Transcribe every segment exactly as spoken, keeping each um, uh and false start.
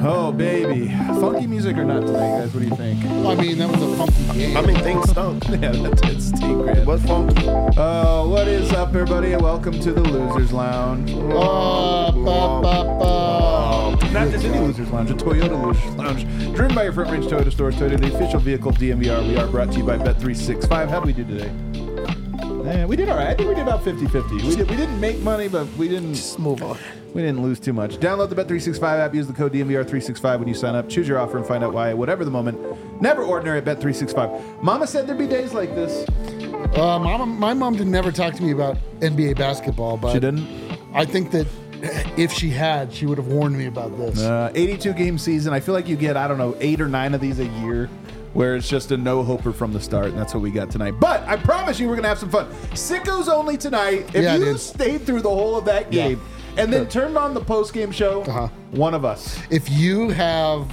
Oh, baby. Funky music or not tonight, guys? What do you think? I mean, that was a funky game. I mean, things stunk. Yeah, that did stink, Grant. What's funky? Oh, what is up, everybody? Welcome to the Losers Lounge. Uh, ba, ba, ba. Not just any Losers Lounge, a Toyota Losers Lounge. Driven by your Front Range Toyota stores, Toyota, the official vehicle of D M V R. We are brought to you by Bet three sixty-five. How did we do today? Yeah, we did all right. I think we did about fifty-fifty. We, did, we didn't make money, but we didn't... Just move on. We didn't lose too much. Download the Bet three sixty-five app. Use the code D M V R three sixty-five when you sign up. Choose your offer and find out why. Whatever the moment, never ordinary at Bet three sixty-five. Mama said there'd be days like this. Uh, mama, my mom did never talk to me about N B A basketball, but She didn't? I think that if she had, she would have warned me about this. Uh, eighty-two game season. I feel like you get, I don't know, eight or nine of these a year where it's just a no-hoper from the start, and that's what we got tonight. But I promise you we're going to have some fun. Sickos only tonight. If Yeah, you dude. stayed through the whole of that game and then turned on the post-game show, Uh-huh. one of us. If you have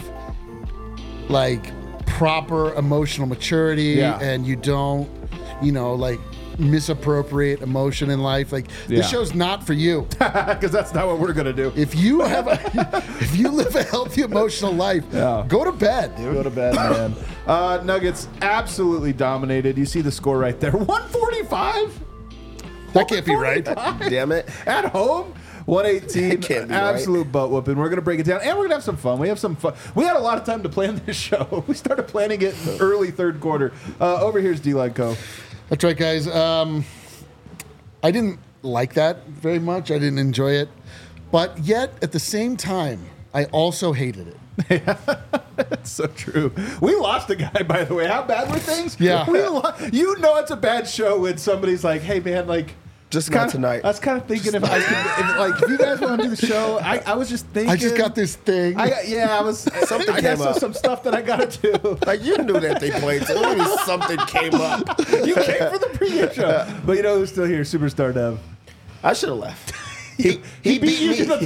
like proper emotional maturity Yeah. and you don't, you know, like misappropriate emotion in life, like Yeah. this show's not for you. Because that's not what we're going to do. If you have a, if you live a healthy emotional life, Yeah. go to bed, dude. Go to bed, man. Uh, Nuggets absolutely dominated. You see the score right there. one forty-five? That can't be right. Damn it. At home? one eighteen. That can't be Absolute butt whooping. We're going to break it down, and we're going to have some fun. We have some fun. We had a lot of time to plan this show. We started planning it in the early third quarter. Uh, over here's D-Line Co. That's right, guys. Um, I didn't like that very much. I didn't enjoy it. But yet, at the same time, I also hated it. That's so true. We lost a guy, by the way. How bad were things? Yeah. We lo- you know it's a bad show when somebody's like, hey, man, like... Just kinda, not tonight. I was kind of thinking if I could, if, like, if you guys want to do the show, I, I was just thinking. I just got this thing. I got, yeah, I was. Something I got came some, up. some stuff that I got to do. Like, you knew that they played. So maybe something came up. You came for the pregame show, but you know who's still here? Superstar Dev. I should have left. He, He beat you to the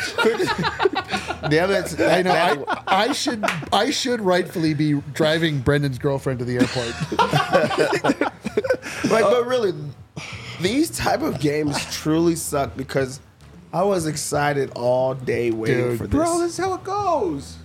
punch. Damn it. I know. I, I should. I should rightfully be driving Brendan's girlfriend to the airport. Like, but really, these type of games truly suck because I was excited all day waiting Dude. for this. Bro, this is how it goes.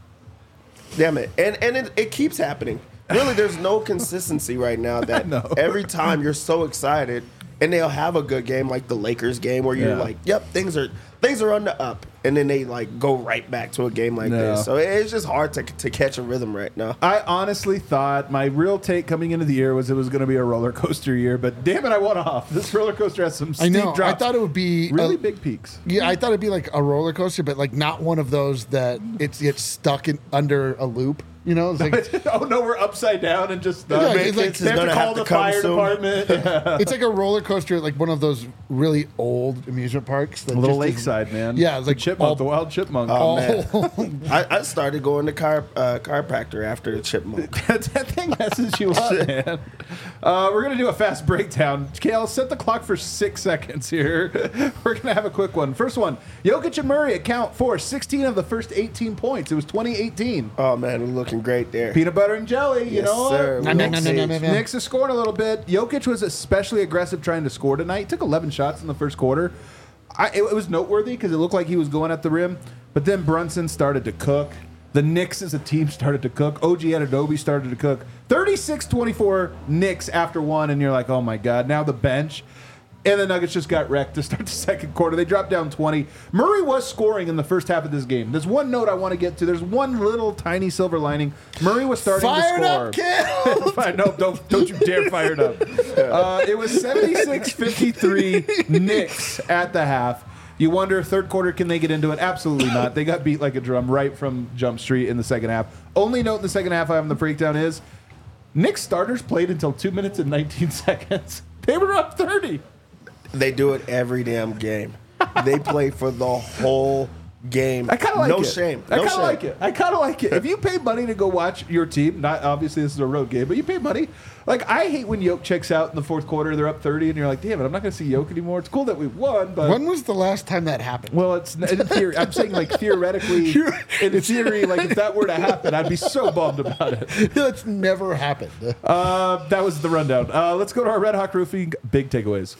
Damn it. And and it, it keeps happening. Really, there's no consistency right now that know. every time you're so excited and they'll have a good game like the Lakers game where you're Yeah. like, yep, things are things are on the up. And then they like go right back to a game like No. this. So it's just hard to, to catch a rhythm right now. I honestly thought my real take coming into the year was it was going to be a roller coaster year, but damn it, I went off. This roller coaster has some I steep know. drops. I thought it would be really a- big peaks. Yeah, I thought it'd be like a roller coaster, but like not one of those that it's gets stuck in under a loop. You know, it's like Oh no, we're upside down and just uh, Yeah, make it's like- it- they have gonna to call have to the come fire soon. department. Yeah. it's like a roller coaster at like one of those really old amusement parks. That A little just is- lakeside, man. Yeah, it's The like chipmunk, all- the wild chipmunk. Oh, all- man. I, I started going to chiro, uh, chiropractor after the chipmunk. that thing messes you up, man. Uh, we're gonna do a fast breakdown. Kale, set the clock for six seconds here. We're gonna have a quick one. First one: Jokic and Murray account for sixteen of the first eighteen points. It was twenty eighteen. Oh, man, we're looking great there. Peanut butter and jelly, you Yes, know. sir. No, no, no, no, no, no, no. Knicks is scoring a little bit. Jokic was especially aggressive trying to score tonight. Took eleven shots in the first quarter. I, it, it was noteworthy because it looked like he was going at the rim. But then Brunson started to cook. The Knicks as a team started to cook. O G Anunoby started to cook. thirty-six twenty-four Knicks after one, and you're like, oh my God. Now the bench. And the Nuggets just got wrecked to start the second quarter. They dropped down twenty. Murray was scoring in the first half of this game. There's one note I want to get to. There's one little tiny silver lining. Murray was starting Fired to score. up, Kale! Fine, no, don't don't you dare fire it up. Uh, it was seventy-six fifty-three Knicks at the half. You wonder, third quarter, can they get into it? Absolutely not. They got beat like a drum right from Jump Street in the second half. Only note in the second half I have in the breakdown is Knicks starters played until two minutes and nineteen seconds. They were up thirty. They do it every damn game. They play for the whole game. I kind of like no it. shame. I No kind of shame. like it. I kind of like it. If you pay money to go watch your team, not obviously this is a road game, but you pay money. Like, I hate when Yoke checks out in the fourth quarter, they're up thirty, and you're like, damn it, I'm not going to see Yoke anymore. It's cool that we won, but... When was the last time that happened? Well, it's in theory. I'm saying, like, theoretically, in theory, like, if that were to happen, I'd be so bummed about it. That's never happened. Uh, that was the rundown. Uh, let's go to our Red Hawk Roofing big takeaways.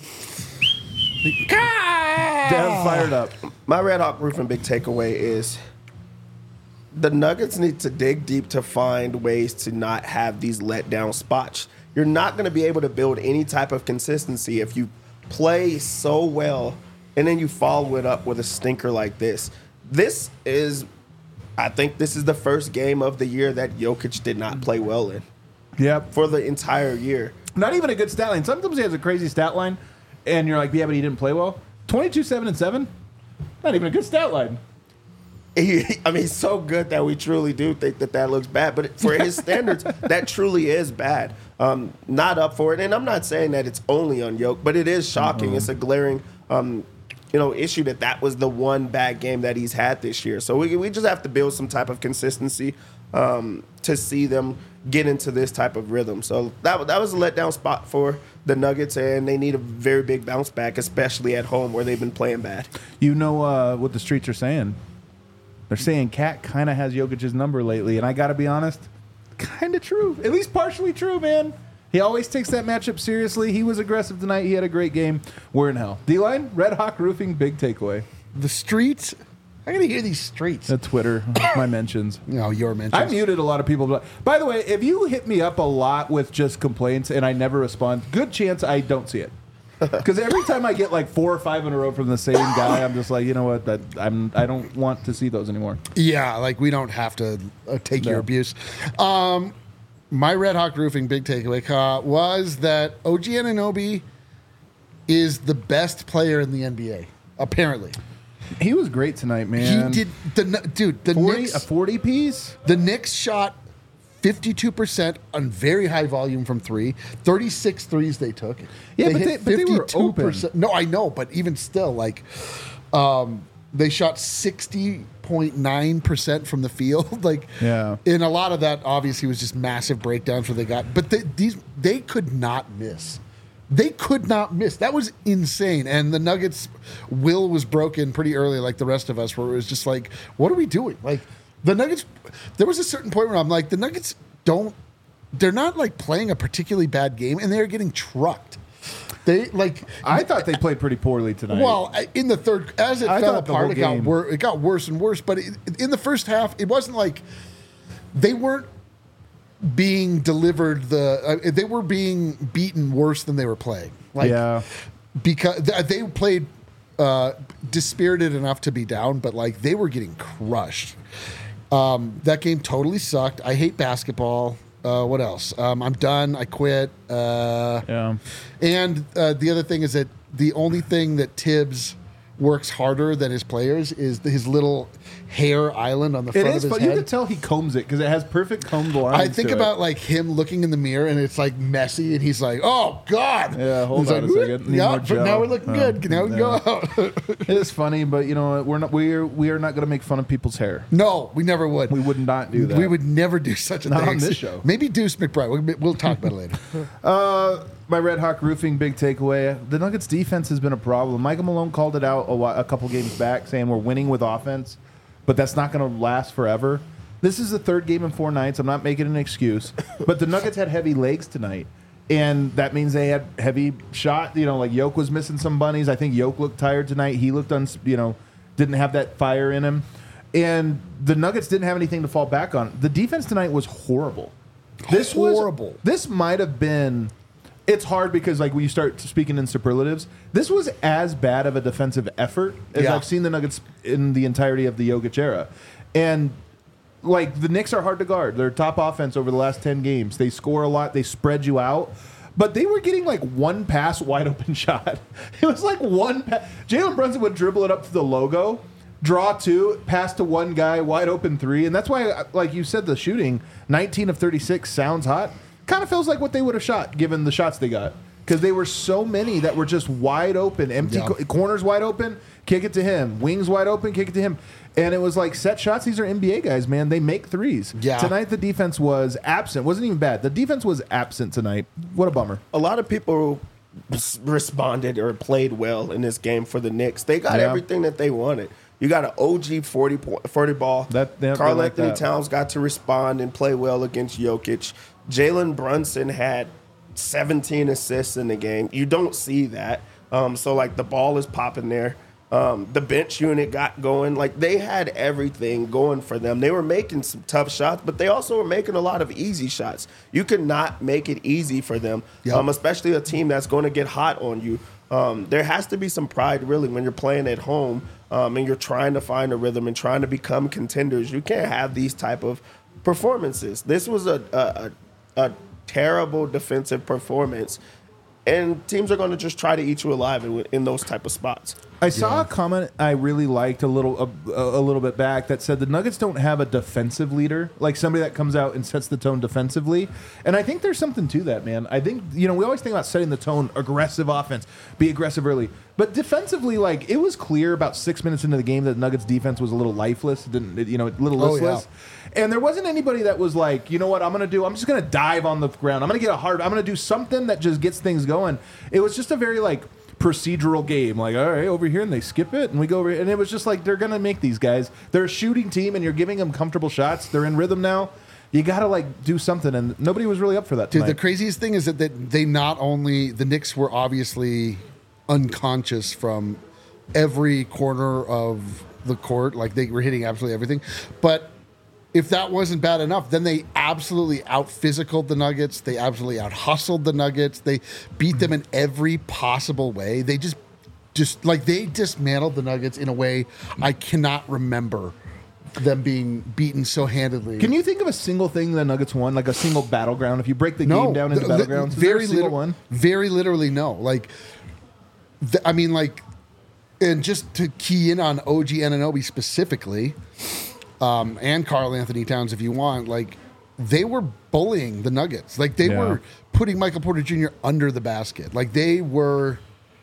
Dev fired up. My Red Hawk Roofing big takeaway is the Nuggets need to dig deep to find ways to not have these letdown spots. You're not going to be able to build any type of consistency if you play so well and then you follow it up with a stinker like this. This is, I think this is the first game of the year that Jokic did not play well in. Yep. For the entire year. Not even a good stat line. Sometimes he has a crazy stat line, and you're like, yeah, but he didn't play well. twenty-two, seven, and seven? Not even a good stat line. He, I mean, he's so good that we truly do think that that looks bad. But for his standards, that truly is bad. Um, not up for it. And I'm not saying that it's only on Jokic, but it is shocking. Mm-hmm. It's a glaring um, you know, issue that that was the one bad game that he's had this year. So we, we just have to build some type of consistency um, to see them get into this type of rhythm. So that, that was a letdown spot for the Nuggets, and they need a very big bounce back, especially at home where they've been playing bad. You know uh, what the streets are saying? They're saying Cat kind of has Jokic's number lately, and I got to be honest, kind of true. At least partially true, man. He always takes that matchup seriously. He was aggressive tonight. He had a great game. We're in hell. D-Line, Red Hawk Roofing, big takeaway. The streets. I gotta hear these streets. The Twitter, my mentions. No, your mentions. I muted a lot of people. By the way, if you hit me up a lot with just complaints and I never respond, good chance I don't see it. Because every time I get like four or five in a row from the same guy, I'm just like, you know what? That I'm. I don't want to see those anymore. Yeah, like we don't have to uh, take No. your abuse. Um, my Red Hawk Roofing big takeaway uh, was that O G Anunoby is the best player in the N B A. Apparently, He was great tonight, man. he did. The dude, the forty, Knicks, a forty piece. the Knicks shot fifty-two percent on very high volume from three. thirty-six threes they took. Yeah, but hit they- but they were fifty-two percent. open. No, I know, but even still, like, um, they shot sixty point nine percent from the field. Like, Yeah. and a lot of that obviously was just massive breakdowns where they got, but they, these they could not miss. They could not miss. That was insane. And the Nuggets' will was broken pretty early, like the rest of us, where it was just like, what are we doing? Like, the Nuggets, there was a certain point where I'm like, the Nuggets don't, they're not like playing a particularly bad game, and they're getting trucked. They like, I thought they played pretty poorly tonight. well, I- in the third, as it I fell thought the apart, whole it got, game- wor- it got worse and worse. But it, in the first half, it wasn't like they weren't being delivered the, uh, they were being beaten worse than they were playing. Like, yeah. because th- they played uh, dispirited enough to be down, but like they were getting crushed. Um, that game totally sucked. I hate basketball. Uh, what else? Um, I'm done. I quit. Uh, Yeah. and uh, the other thing is that the only thing that Tibbs works harder than his players is the, his little hair island on the It front is, of his but head. you can tell he combs it because it has perfect combed lines. I think to about it. like him looking in the mirror and it's like messy and he's like, "Oh God!" Yeah, hold He's on like, a second. Need Yeah, more but gel." now we're looking Oh, good. Now we can yeah. go out. It is funny, but you know what? We're not. We're we are not going to make fun of people's hair. No, we never would. We would not do that. We would never do such a Not thing. on this show. Maybe Deuce McBride. We'll, we'll talk about it later. Uh, my Red Hawk Roofing big takeaway: the Nuggets defense has been a problem. Michael Malone called it out a, while, a couple games back, saying we're winning with offense, but that's not going to last forever. This is the third game in four nights. I'm not making an excuse, but the Nuggets had heavy legs tonight, and that means they had heavy shot. You know, like Yoke was missing some bunnies. I think Yoke looked tired tonight. He looked uns, you know, didn't have that fire in him, and the Nuggets didn't have anything to fall back on. The defense tonight was horrible. This Horrible. Was, this might have been. It's hard because, like, when you start speaking in superlatives, this was as bad of a defensive effort as Yeah. I've seen the Nuggets in the entirety of the Jokic era. And, like, the Knicks are hard to guard. They're top offense over the last ten games. They score a lot. They spread you out. But they were getting, like, one pass wide open shot. It was like one pass. Jalen Brunson would dribble it up to the logo, draw two, pass to one guy, wide open three. And that's why, like you said, the shooting, nineteen of thirty-six sounds hot. Kind of feels like what they would have shot given the shots they got, because they were so many that were just wide open, empty Yeah. co- corners wide open, kick it to him, wings wide open, kick it to him, and it was like set shots. These are N B A guys, man. They make threes. Yeah. Tonight the defense was absent. Wasn't even bad. The defense was absent tonight. What a bummer. A lot of people s- responded or played well in this game for the Knicks. They got Yeah. everything that they wanted. You got an O G forty, po- forty ball. That- yeah, Karl they like Anthony that. Towns got to respond and play well against Jokic. Jalen Brunson had seventeen assists in the game. You don't see that. Um, so, like, the ball is popping there. Um, the bench unit got going. Like, they had everything going for them. They were making some tough shots, but they also were making a lot of easy shots. You could not make it easy for them, Yep. um, especially a team that's going to get hot on you. Um, there has to be some pride, really, when you're playing at home um, and you're trying to find a rhythm and trying to become contenders. You can't have these type of performances. This was a, a, a, a terrible defensive performance, and teams are going to just try to eat you alive in, in those type of spots. I saw a comment I really liked a little a, a little bit back that said the Nuggets don't have a defensive leader, like somebody that comes out and sets the tone defensively. And I think there's something to that, man. I think, you know, we always think about setting the tone, aggressive offense, be aggressive early. But defensively, like, it was clear about six minutes into the game that the Nuggets defense was a little lifeless, didn't you know, a little Oh, listless. yeah. And there wasn't anybody that was like, you know what, I'm going to do, I'm just going to dive on the ground. I'm going to get a hard, I'm going to do something that just gets things going. It was just a very, like, procedural game, like, all right, over here, and they skip it, and we go over here. And it was just like, they're going to make these guys. They're a shooting team, and you're giving them comfortable shots. They're in rhythm now. You got to, like, do something, and nobody was really up for that Dude, tonight. the craziest thing is that, that they not only, the Knicks were obviously unconscious from every corner of the court, like they were hitting absolutely everything, but if that wasn't bad enough, then they absolutely out-physicaled the Nuggets. They absolutely out-hustled the Nuggets. They beat them in every possible way. They just, just like, they dismantled the Nuggets in a way I cannot remember them being beaten so handedly. Can you think of a single thing the Nuggets won, like a single battleground? If you break the game down into the- the- battlegrounds, is very there a single liter- one? Very literally, no. Like, th- I mean, like, and just to key in on O G Anunoby specifically, um, and Karl Anthony Towns, if you want, like, they were bullying the Nuggets. Like, they Yeah. were putting Michael Porter Junior under the basket. Like, they were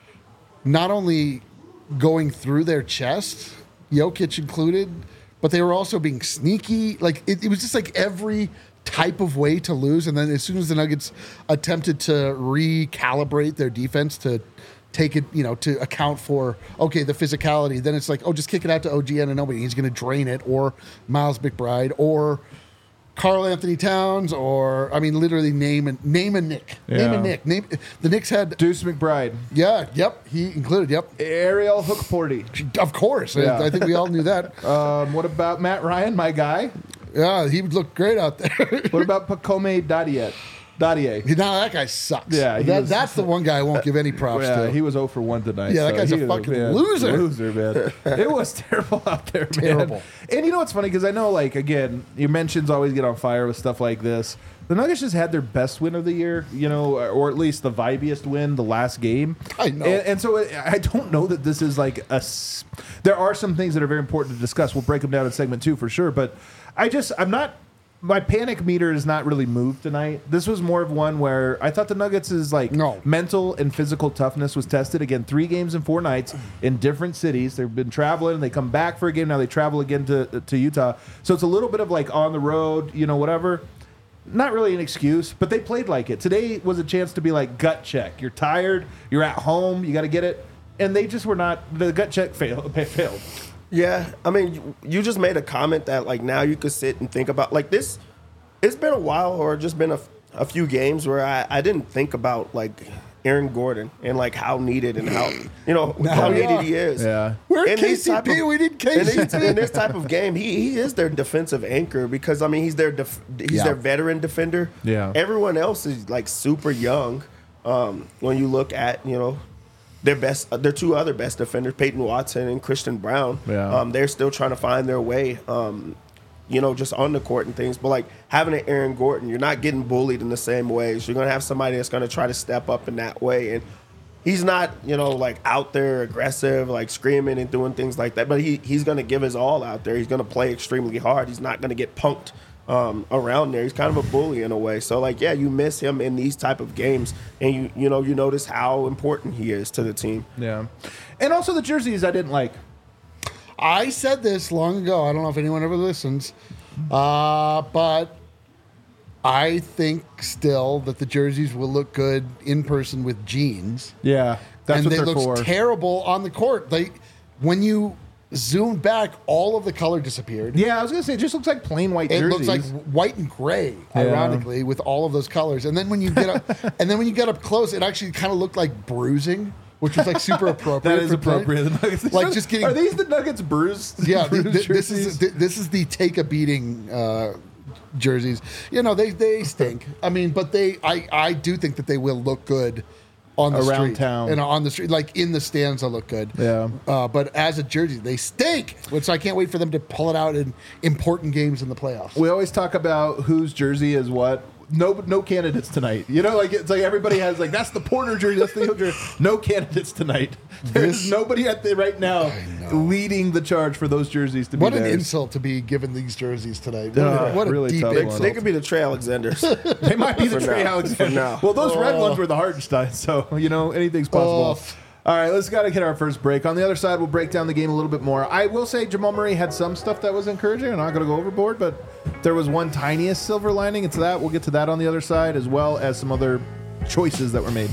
not only going through their chest, Jokic included, but they were also being sneaky. Like, it, it was just like every type of way to lose. And then as soon as the Nuggets attempted to recalibrate their defense to take it, you know, to account for, okay, the physicality, then it's like, oh, just kick it out to O G Anunoby. He's going to drain it, or Miles McBride, or Karl Anthony Towns, or, I mean, literally name and name a Nick. Name Yeah. a Nick. Name, the Knicks had, Deuce McBride, yeah, yep, he included, yep. Ariel Hookporty. Of course. Yeah. I, I think we all knew that. Um, what about Matt Ryan, my guy? Yeah, he would look great out there. What about Pacome Dadiet? Dadier. Now that guy sucks. Yeah, he that, was- that's the one guy I won't give any props Yeah, to. he was zero for one tonight. Yeah, that so guy's a he- fucking man, loser. Loser, man. It was terrible out there, man. Terrible. And you know what's funny? Because I know, like, again, your mentions always get on fire with stuff like this. The Nuggets just had their best win of the year, you know, or at least the vibiest win, the last game. I know. And, and so I don't know that this is like a. s- There are some things that are very important to discuss. We'll break them down in segment two for sure. But I just, I'm not. My panic meter is not really moved tonight. This was more of one where I thought the Nuggets' is like No. mental and physical toughness was tested. Again, three games in four nights in different cities. They've been traveling. They come back for a game. Now they travel again to to Utah. So it's a little bit of like on the road, you know, whatever. Not really an excuse, but they played like it. Today was a chance to be like gut check. You're tired. You're at home. You got to get it. And they just were not. The gut check failed. failed. Yeah, I mean, you, you just made a comment that, like, now you could sit and think about, like, this. It's been a while, or just been a, a few games where I, I didn't think about, like, Aaron Gordon and, like, how needed and how, you know, how we needed are. he is. Yeah. We're In these K C P, type of- we need in K C this, P. in this type of game, he, he is their defensive anchor because, I mean, he's their def, he's Yeah. their veteran defender. Yeah. Everyone else is, like, super young. Um, when you look at, you know, their best, their two other best defenders, Peyton Watson and Christian Brown. Yeah. Um, they're still trying to find their way, um, you know, just on the court and things. But, like, having an Aaron Gordon, you're not getting bullied in the same ways. You're going to have somebody that's going to try to step up in that way. And he's not, you know, like, out there aggressive, like, screaming and doing things like that. But he, he's going to give his all out there. He's going to play extremely hard. He's not going to get punked um, around there. He's kind of a bully in a way. So, like, yeah, you miss him in these type of games. And, you you know, you notice how important he is to the team. Yeah. And also the jerseys I didn't like. I said this long ago. I don't know if anyone ever listens, uh, but I think still that the jerseys will look good in person with jeans, Yeah. That's and what they they're look for. terrible on the court. They, when you zoom back, all of the color disappeared. Yeah, I was gonna say it just looks like plain white It jerseys. looks like white and gray, ironically, with all of those colors. And then when you get up, and then when you get up close, it actually kind of looked like bruising which was like super appropriate. That is for today. appropriate. The Nuggets, Like just getting Are these the Nuggets bruised? yeah. th- bruised th- this is jerseys? th- this is the take a beating uh, jerseys. You know they they stink. I mean, but they I I do think that they will look good on the Around street town. and on the street, like in the stands, they'll look good. Yeah. Uh, but as a jersey, they stink. Which I can't wait for them to pull it out in important games in the playoffs. We always talk about whose jersey is what. No, no candidates tonight. You know, like it's like everybody has like that's the Porter jersey, that's the Hill jersey. No candidates tonight. There's This- nobody at the right now leading the charge for those jerseys to What be an theirs. insult to be given these jerseys tonight. What, Uh, a, what a really deep tough They, one. insult. they could be the Trey Alexanders. They might be the For Trey now. Alexander. For now. Well, those red Oh. ones were the Hardenstein, so you know anything's possible. Oh. All right, let's got to hit our first break. On the other side, we'll break down the game a little bit more. I will say Jamal Murray had some stuff that was encouraging. I'm not going to go overboard, but there was one tiniest silver lining. It's that. We'll get to that on the other side, as well as some other choices that were made.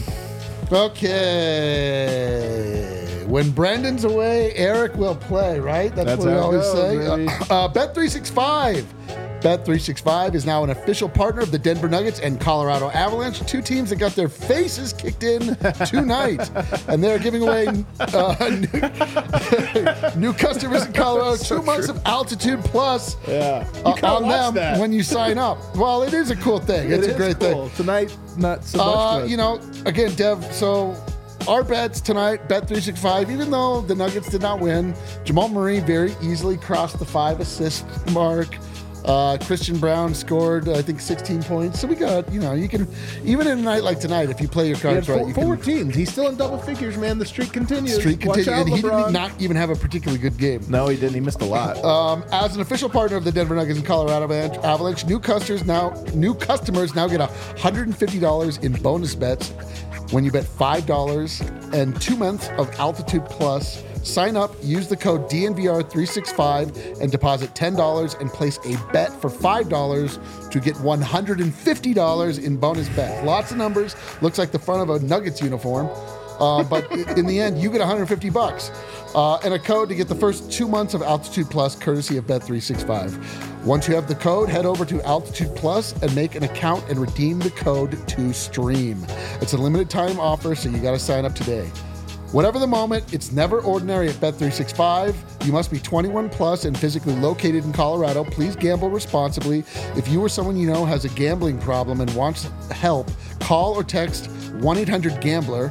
Okay. When Brandon's away, Eric will play, right? That's, That's what we how it always goes, say. baby. Uh, uh, Bet three sixty-five. Bet three sixty-five is now an official partner of the Denver Nuggets and Colorado Avalanche, two teams that got their faces kicked in tonight. And they're giving away uh, new, new customers in Colorado So two months true. of Altitude Plus Yeah. uh, gotta on watch them that. when you sign up. Well, it is a cool thing. It's It a is great cool. thing. Tonight, not so much. Uh, but- you know, again, Dev, so our bets tonight, Bet three sixty-five, even though the Nuggets did not win, Jamal Murray very easily crossed the five assist mark. Uh, Christian Brown scored, I think, sixteen points. So we got, you know, you can, even in a night like tonight, if you play your He had cards right, four, you four can. teams. He's still in double figures, man. The streak continues. Streak Watch continue, out, and he LeBron. did not even have a particularly good game. No, he didn't. He missed a lot. Um, as an official partner of the Denver Nuggets and Colorado Avalanche, Avalanche, new customers now new customers now get one hundred fifty dollars in bonus bets when you bet five dollars and two months of Altitude Plus. Sign up, use the code D N V R three sixty-five and deposit ten dollars and place a bet for five dollars to get one hundred fifty dollars in bonus bets. Lots of numbers. Looks like the front of a Nuggets uniform. Uh, but in the end, you get one hundred fifty bucks uh, and a code to get the first two months of Altitude Plus, courtesy of Bet three sixty-five. Once you have the code, head over to Altitude Plus and make an account and redeem the code to stream. It's a limited time offer, so you got to sign up today. Whatever the moment, it's never ordinary at Bet three sixty-five. You must be twenty-one plus and physically located in Colorado. Please gamble responsibly. If you or someone you know has a gambling problem and wants help, call or text one eight hundred gambler.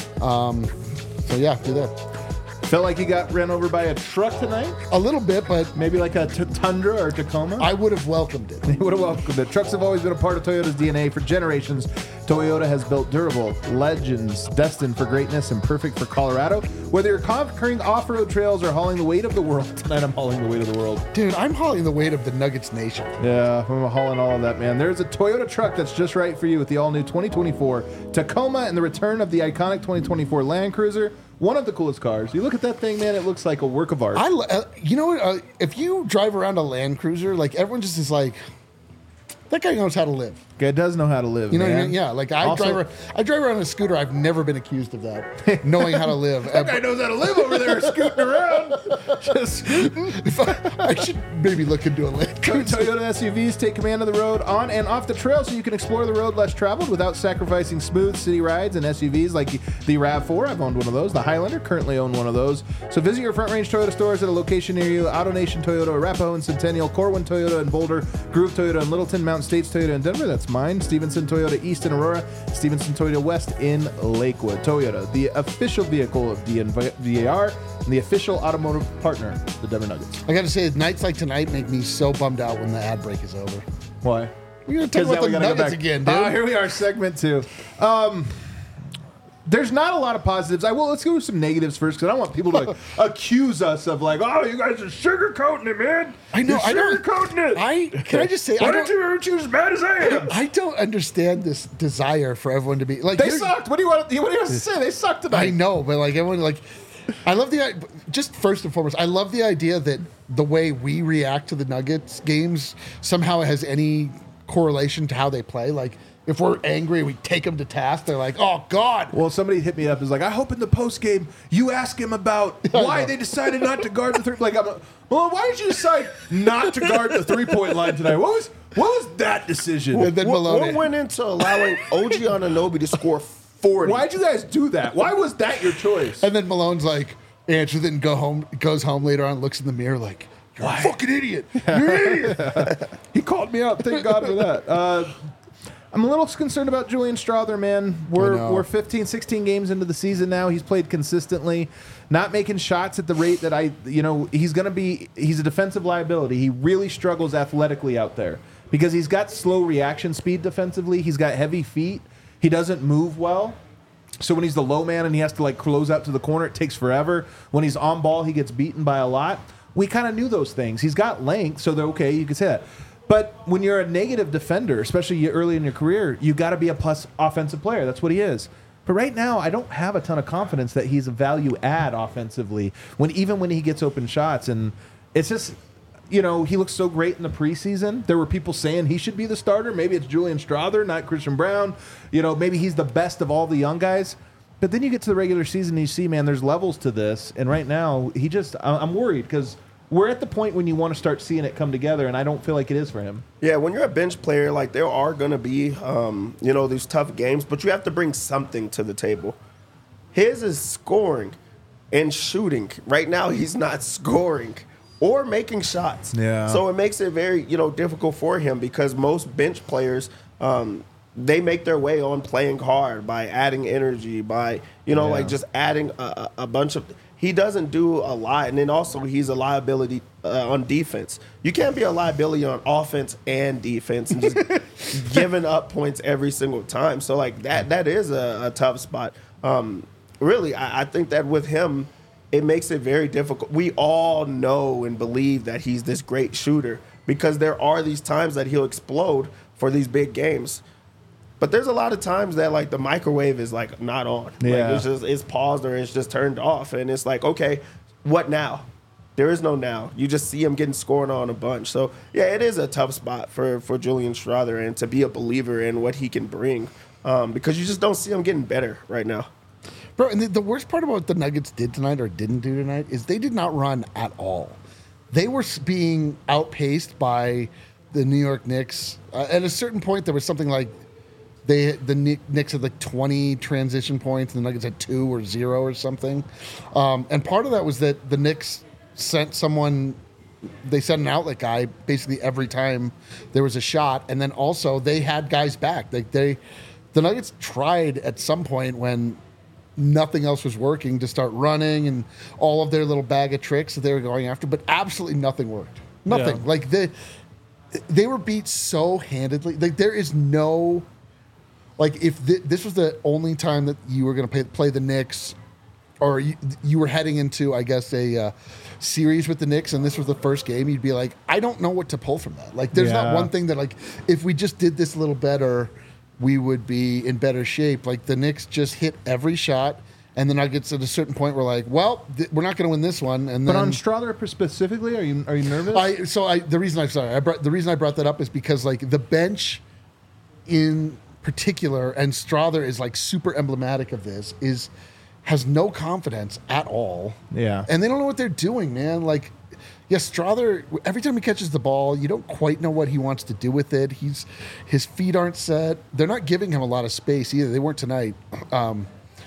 Um, so yeah, do that. Felt like he got ran over by a truck tonight? A little bit, but Maybe like a t- Tundra or Tacoma? I would have welcomed it. He would have welcomed it. Trucks have always been a part of Toyota's D N A for generations. Toyota has built durable legends destined for greatness and perfect for Colorado. Whether you're conquering off-road trails or hauling the weight of the world, tonight I'm hauling the weight of the world. Dude, I'm hauling the weight of the Nuggets Nation. Yeah, I'm hauling all of that, man. There's a Toyota truck that's just right for you with the all-new twenty twenty-four Tacoma and the return of the iconic twenty twenty-four Land Cruiser. One of the coolest cars. You look at that thing, man, it looks like a work of art. I, lo- uh, you know what? Uh, if you drive around a Land Cruiser, like everyone just is like, that guy knows how to live. It does know how to live, You know man. what I mean? Yeah, like I Also- drive. Around, I drive around a scooter. I've never been accused of that, knowing how to live. That guy knows how to live over there, scooting around. Just scooting. If I, I should maybe look into a Land Cruiser. Toyota S U Vs take command of the road on and off the trail so you can explore the road less traveled without sacrificing smooth city rides and S U Vs like the RAV four. I've owned one of those. The Highlander currently own one of those. So visit your Front Range Toyota stores at a location near you. AutoNation Toyota, Arapahoe and Centennial, Corwin Toyota and Boulder, Groove Toyota and Littleton, Mountain States Toyota in Denver. That's mine. Stevenson Toyota East in Aurora, Stevenson Toyota West in Lakewood. Toyota, the official vehicle of D N V R and the official automotive partner of the Denver Nuggets. I got to say, nights like tonight make me so bummed out when the ad break is over. Why? We're gonna talk about the Nuggets again, dude. Uh, here we are, segment two. Um, there's not a lot of positives. I will. Let's go with some negatives first, because I don't want people to like, accuse us of like, oh, you guys are sugarcoating it, man. I know, You're I don't- sugarcoating it. I can I just say Why I don't don't, you aren't you as bad as I am? I don't understand this desire for everyone to be like They you're- sucked. What do you want? What do you want to say? They sucked tonight. I know, but like everyone, like I love the just first and foremost, I love the idea that the way we react to the Nuggets games somehow has any correlation to how they play. Like if we're angry, we take them to task. They're like, "Oh God!" Well, somebody hit me up. Is like, I hope in the post game you ask him about why know. they decided not to guard the three. Like, I'm, well, why did you decide not to guard the three point line tonight? What was what was that decision? And then What, Malone. what went into allowing O G Anunoby to score forty. Why'd you guys do that? Why was that your choice? And then Malone's like, Andrew then go home, goes home later on, looks in the mirror like, you're a fucking idiot. You're an idiot. He called me out. Thank God for that. Uh, I'm a little concerned about Julian Strother, man. We're know. we're fifteen, sixteen games into the season now. He's played consistently, not making shots at the rate that I, you know, he's going to be, he's a defensive liability. He really struggles athletically out there because he's got slow reaction speed defensively. He's got heavy feet. He doesn't move well. So when he's the low man and he has to like close out to the corner, it takes forever. When he's on ball, he gets beaten by a lot. We kind of knew those things. He's got length, so they're okay. You can say that. But when you're a negative defender, especially early in your career, you got to be a plus offensive player. That's what he is. But right now, I don't have a ton of confidence that he's a value add offensively. When even when he gets open shots, and it's just, you know, he looks so great in the preseason. There were people saying he should be the starter. Maybe it's Julian Strother, not Christian Brown. You know, maybe he's the best of all the young guys. But then you get to the regular season and you see, man, there's levels to this. And right now, he just, I'm worried because we're at the point when you want to start seeing it come together, and I don't feel like it is for him. Yeah, when you're a bench player, like there are going to be, um, you know, these tough games, but you have to bring something to the table. His is scoring and shooting. Right now, he's not scoring or making shots. Yeah. So it makes it very, you know, difficult for him because most bench players, um, they make their way on playing hard by adding energy, by, you know, Yeah. like just adding a, a bunch of. He doesn't do a lot, and then also he's a liability uh, on defense. You can't be a liability on offense and defense and just giving up points every single time. So like that, that is a, a tough spot. Um, really, I, I think that with him, it makes it very difficult. We all know and believe that he's this great shooter because there are these times that he'll explode for these big games. But there's a lot of times that like the microwave is like not on. Yeah. Like it's just it's paused or it's just turned off, and it's like, okay, what now? There is no now. You just see him getting scored on a bunch. So yeah, it is a tough spot for for Julian Strother and to be a believer in what he can bring, um, because you just don't see him getting better right now. Bro, and the, the worst part about what the Nuggets did tonight or didn't do tonight is they did not run at all. They were s- being outpaced by the New York Knicks. Uh, at a certain point, there was something like They the Knicks had like twenty transition points, and the Nuggets had two or zero or something. Um, and part of that was that the Knicks sent someone, they sent an outlet guy basically every time there was a shot, and then also they had guys back. Like they, the Nuggets tried at some point when nothing else was working to start running and all of their little bag of tricks that they were going after, but absolutely nothing worked. Nothing. Yeah. Like they, they were beat so handedly. Like there is no. Like, if th- this was the only time that you were going to play, play the Knicks, or you, you were heading into, I guess, a uh, series with the Knicks, and this was the first game, you'd be like, I don't know what to pull from that. Like, there's Yeah. not one thing that, like, if we just did this a little better, we would be in better shape. Like, the Knicks just hit every shot, and the Nuggets at a certain point were like, well, th- we're not going to win this one. And But then, on Strother specifically, are you are you nervous? I so I the reason I sorry I brought the reason I brought that up is because like the bench in particular, and Strother is like super emblematic of this, is has no confidence at all. Yeah. And they don't know what they're doing, man. Like, yes, Strother, every time he catches the ball, you don't quite know what he wants to do with it. He's his feet aren't set. They're not giving him a lot of space either. They weren't tonight. Um,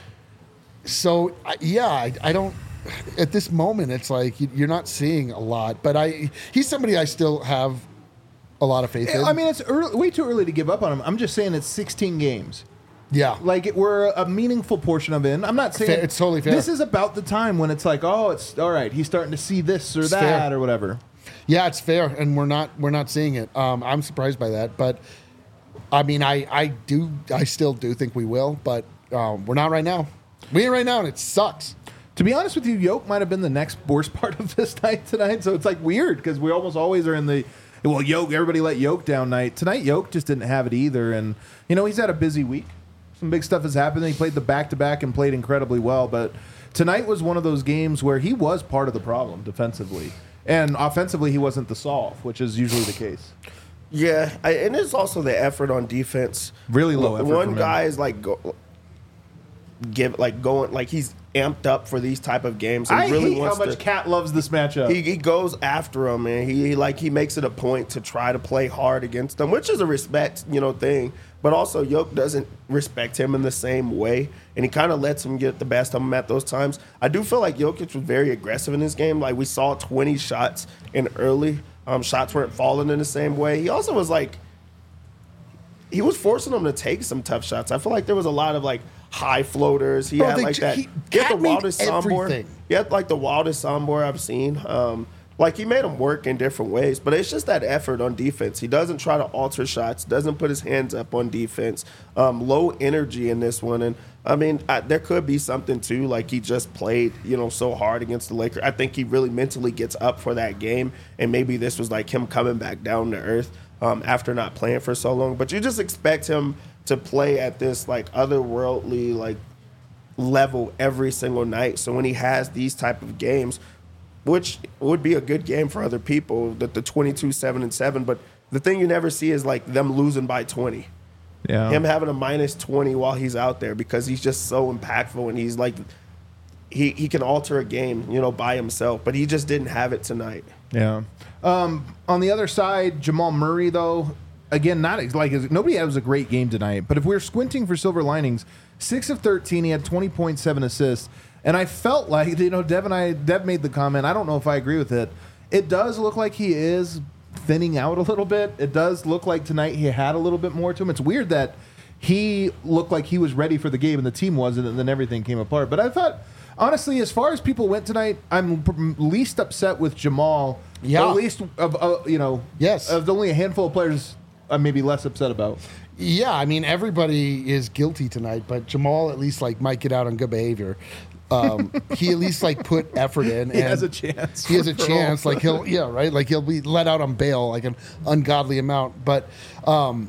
so I, yeah, I, I don't. At this moment, it's like you- you're not seeing a lot. But I, he's somebody I still have a lot of faith in. I mean, it's early, way too early to give up on him. I'm just saying it's sixteen games. yeah, Like it, we're a meaningful portion of it. I'm not saying Fair- it's totally fair. This is about the time when it's like, oh, it's all right. He's starting to see this or It's that fair. or whatever. yeah, it's fair, and we're not we're not seeing it. Um, I'm surprised by that, but I mean, I I do I still do think we will, but um, we're not right now. We ain't right now, and it sucks. To be honest with you, Yoke might have been the next worst part of this night tonight. So it's like weird because we almost always are in the well, Yoke. Everybody let Yoke down night tonight. Yoke just didn't have it either, and you know he's had a busy week. Some big stuff has happened. He played the back to back and played incredibly well, but tonight was one of those games where he was part of the problem defensively, and offensively he wasn't the solve, which is usually the case. Yeah, I, and it's also the effort on defense. Really low effort One from him. guy is like go, give like going like he's amped up for these type of games. And I really hate wants how much to, Cat loves this matchup. he, he goes after him, and he, he like he makes it a point to try to play hard against them, which is a respect, you know, thing. But also, Yoke doesn't respect him in the same way, and he kind of lets him get the best of him at those times. I do feel like Jokic was very aggressive in this game. Like, we saw twenty shots in early. Um, shots weren't falling in the same way. He also was like, he was forcing them to take some tough shots. I feel like there was a lot of like high floaters. He Bro, had they like ju- that. he- He had Cat the made wildest soundboard. everything. He had like the wildest soundboard I've seen. Um, like he made him work in different ways, but it's just that effort on defense. He doesn't try to alter shots, doesn't put his hands up on defense. Um, low energy in this one, and I mean, I, there could be something too. Like he just played, you know, so hard against the Lakers. I think he really mentally gets up for that game, and maybe this was like him coming back down to earth um, after not playing for so long. But you just expect him to play at this like otherworldly like level every single night. So when he has these type of games, which would be a good game for other people, that the twenty-two, seven, and seven. But the thing you never see is like them losing by twenty. yeah. Him having a minus twenty while he's out there because he's just so impactful and he's like, he, he can alter a game, you know, by himself. But he just didn't have it tonight. Yeah. Um, on the other side, Jamal Murray, though, again, not ex- like nobody has a great game tonight. But if we're squinting for silver linings, six of thirteen, he had twenty point seven assists. And I felt like, you know, Dev and I, Dev made the comment. I don't know if I agree with it. It does look like he is thinning out a little bit. It does look like tonight he had a little bit more to him. It's weird that he looked like he was ready for the game and the team wasn't, and then everything came apart. But I thought, honestly, as far as people went tonight, I'm p- least upset with Jamal. Yeah. Or at least of uh, you know, Yes. of only a handful of players I'm maybe less upset about. Yeah, I mean everybody is guilty tonight, but Jamal at least like might get out on good behavior. Um, he at least like put effort in. He and has a chance. He has a for chance. all. Like he'll yeah right. Like he'll be let out on bail like an ungodly amount. But um,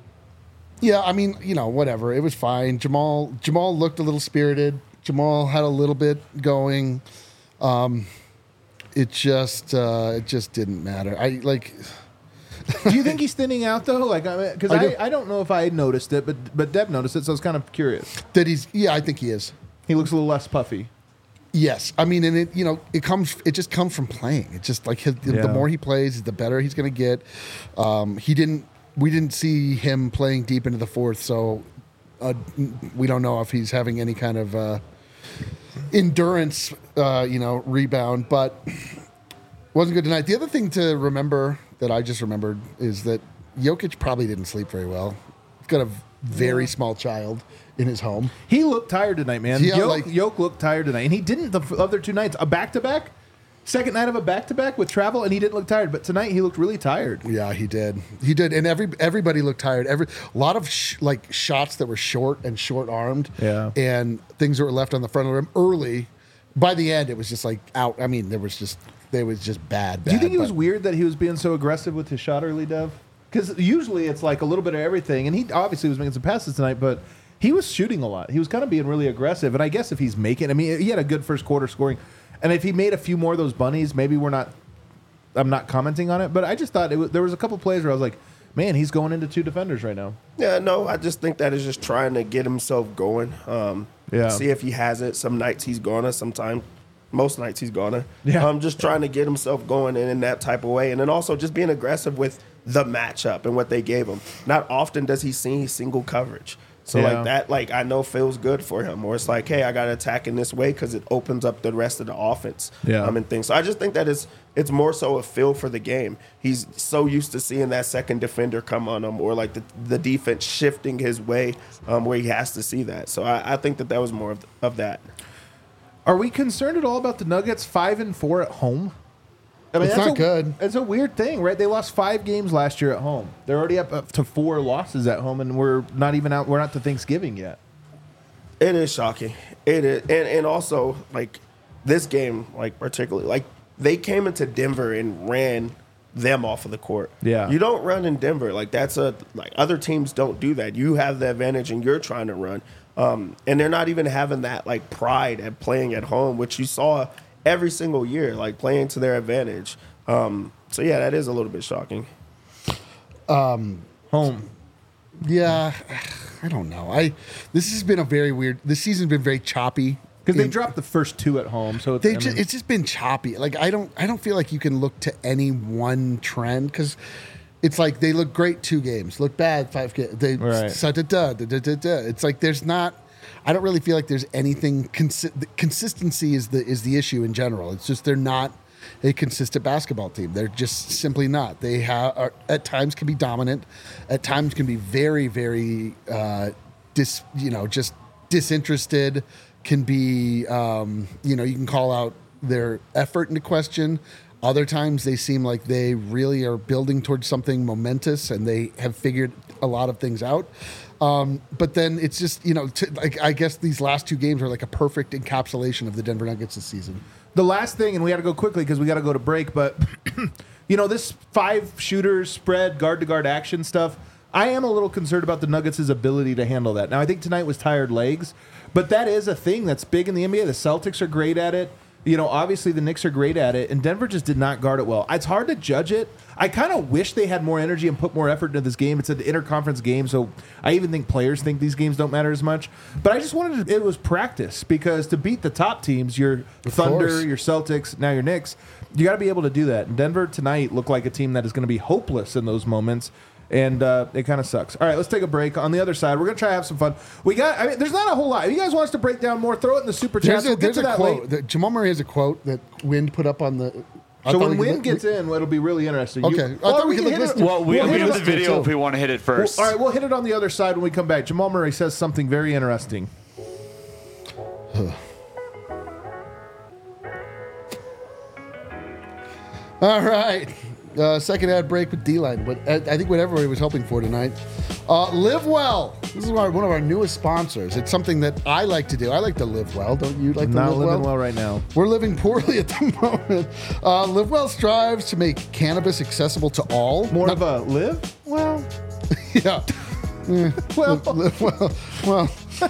yeah, I mean you know whatever. It was fine. Jamal Jamal looked a little spirited. Jamal had a little bit going. Um, it just uh, it just didn't matter. I like. Do you think he's thinning out though? Like, because I, I I, do. I don't know if I noticed it, but but Deb noticed it, so I was kind of curious. That he's yeah, I think he is. He looks a little less puffy. Yes, I mean, and it you know it comes it just comes from playing. It just like his, Yeah. the more he plays, the better he's going to get. Um, he didn't we didn't see him playing deep into the fourth, so uh, we don't know if he's having any kind of uh, endurance, uh, you know, rebound. But wasn't good tonight. The other thing to remember that I just remembered is that Jokic probably didn't sleep very well. He's got a very small child in his home. He looked tired tonight, man. Yeah, Yoke, like- Yoke looked tired tonight, and he didn't the f- other two nights. A back to back, second night of a back to back with travel, and he didn't look tired. But tonight he looked really tired. Yeah, he did. He did, and every everybody looked tired. Every a lot of sh- like shots that were short and short armed. Yeah. and things that were left on the front of the rim early. By the end, it was just like out. I mean, there was just there was just bad. bad Do you think it was but- weird that he was being so aggressive with his shot early, Dev? Because usually it's like a little bit of everything, and he obviously was making some passes tonight, but he was shooting a lot. He was kind of being really aggressive, and I guess if he's making, I mean, he had a good first quarter scoring, and if he made a few more of those bunnies, maybe we're not. I'm not commenting on it, but I just thought it was, there was a couple plays where I was like, man, he's going into two defenders right now. Yeah, no, I just think that is just trying to get himself going. Um, Yeah. See if he has it. Some nights he's gonna. Sometimes, most nights he's gonna. Yeah. Um, just trying to get himself going in, in that type of way, and then also just being aggressive with the matchup and what they gave him. Not often does he see single coverage. So Yeah. like that, like I know feels good for him. Or it's like, hey, I got to attack in this way because it opens up the rest of the offense. Yeah. Um, and things. So I just think that is it's more so a feel for the game. He's so used to seeing that second defender come on him, or like the the defense shifting his way, um, where he has to see that. So I, I think that that was more of, of that. Are we concerned at all about the Nuggets five and four at home? I It's that's not a, good. It's a weird thing, right? They lost five games last year at home. They're already up, up to four losses at home, and we're not even out. We're not to Thanksgiving yet. It is shocking. It is, and and also like this game, like particularly, like they came into Denver and ran them off of the court. Yeah. You don't run in Denver. Like that's a like other teams don't do that. You have the advantage and you're trying to run. Um, and they're not even having that like pride at playing at home, which you saw every single year, like playing to their advantage. Um, so yeah, that is a little bit shocking. Home. Yeah, I don't know. I this has been a very weird. This season's been very choppy Because they in- dropped the first two at home, so it's, They I just, mean, it's just been choppy. Like I don't I don't feel like you can look to any one trend because it's like they look great two games, look bad five games. They Right. da, da, da, da, da, da. It's like there's not. I don't really feel like there's anything. Consi- the consistency is the is the issue in general. It's just they're not a consistent basketball team. They're just simply not. They have are, at times can be dominant, at times can be very very uh, dis you know just disinterested. Can be, um, you know, you can call out their effort into question. Other times they seem like they really are building towards something momentous and they have figured a lot of things out. Um, but then it's just, you know, t- like I guess these last two games are like a perfect encapsulation of the Denver Nuggets this season. the last thing, and we got to go quickly because we got to go to break, but, you know, this five shooters, spread, guard to guard action stuff, I am a little concerned about the Nuggets' ability to handle that. Now, I think tonight was tired legs, but that is a thing that's big in the N B A. The Celtics are great at it. You know, obviously the Knicks are great at it, and Denver just did not guard it well. It's hard to judge it. I kind of wish they had more energy and put more effort into this game. It's an interconference game, so I even think players think these games don't matter as much. But I just wanted to, it was practice because to beat the top teams, your Thunder, course. your Celtics, now your Knicks, you got to be able to do that. And Denver tonight looked like a team that is going to be hopeless in those moments. And uh, it kind of sucks. All right, let's take a break. On the other side, we're gonna try to have some fun. We got. I mean, there's not a whole lot. If you guys want us to break down more, throw it in the super chat. There's a, We'll get there's to a that quote. late. That Jamal Murray has a quote that Wind put up on the. I So thought when we could Win li- gets in, it'll be really interesting. Okay. You, I thought or we can could hit listen it- to- Well, we, we'll we hit have it- the video too. if we want to hit it Well, first. all right, we'll hit it on the other side when we come back. Jamal Murray says something very interesting. All right. Uh, second ad break with D-Line. But I, I think what everybody was hoping for tonight. Uh, live well. This is our, one of our newest sponsors. It's something that I like to do. I like to live well. Don't you like to Not live living well? well right now. We're living poorly at the moment. Uh, live Well strives to make cannabis accessible to all. More Not- of a live well. yeah. Well, Live well, well,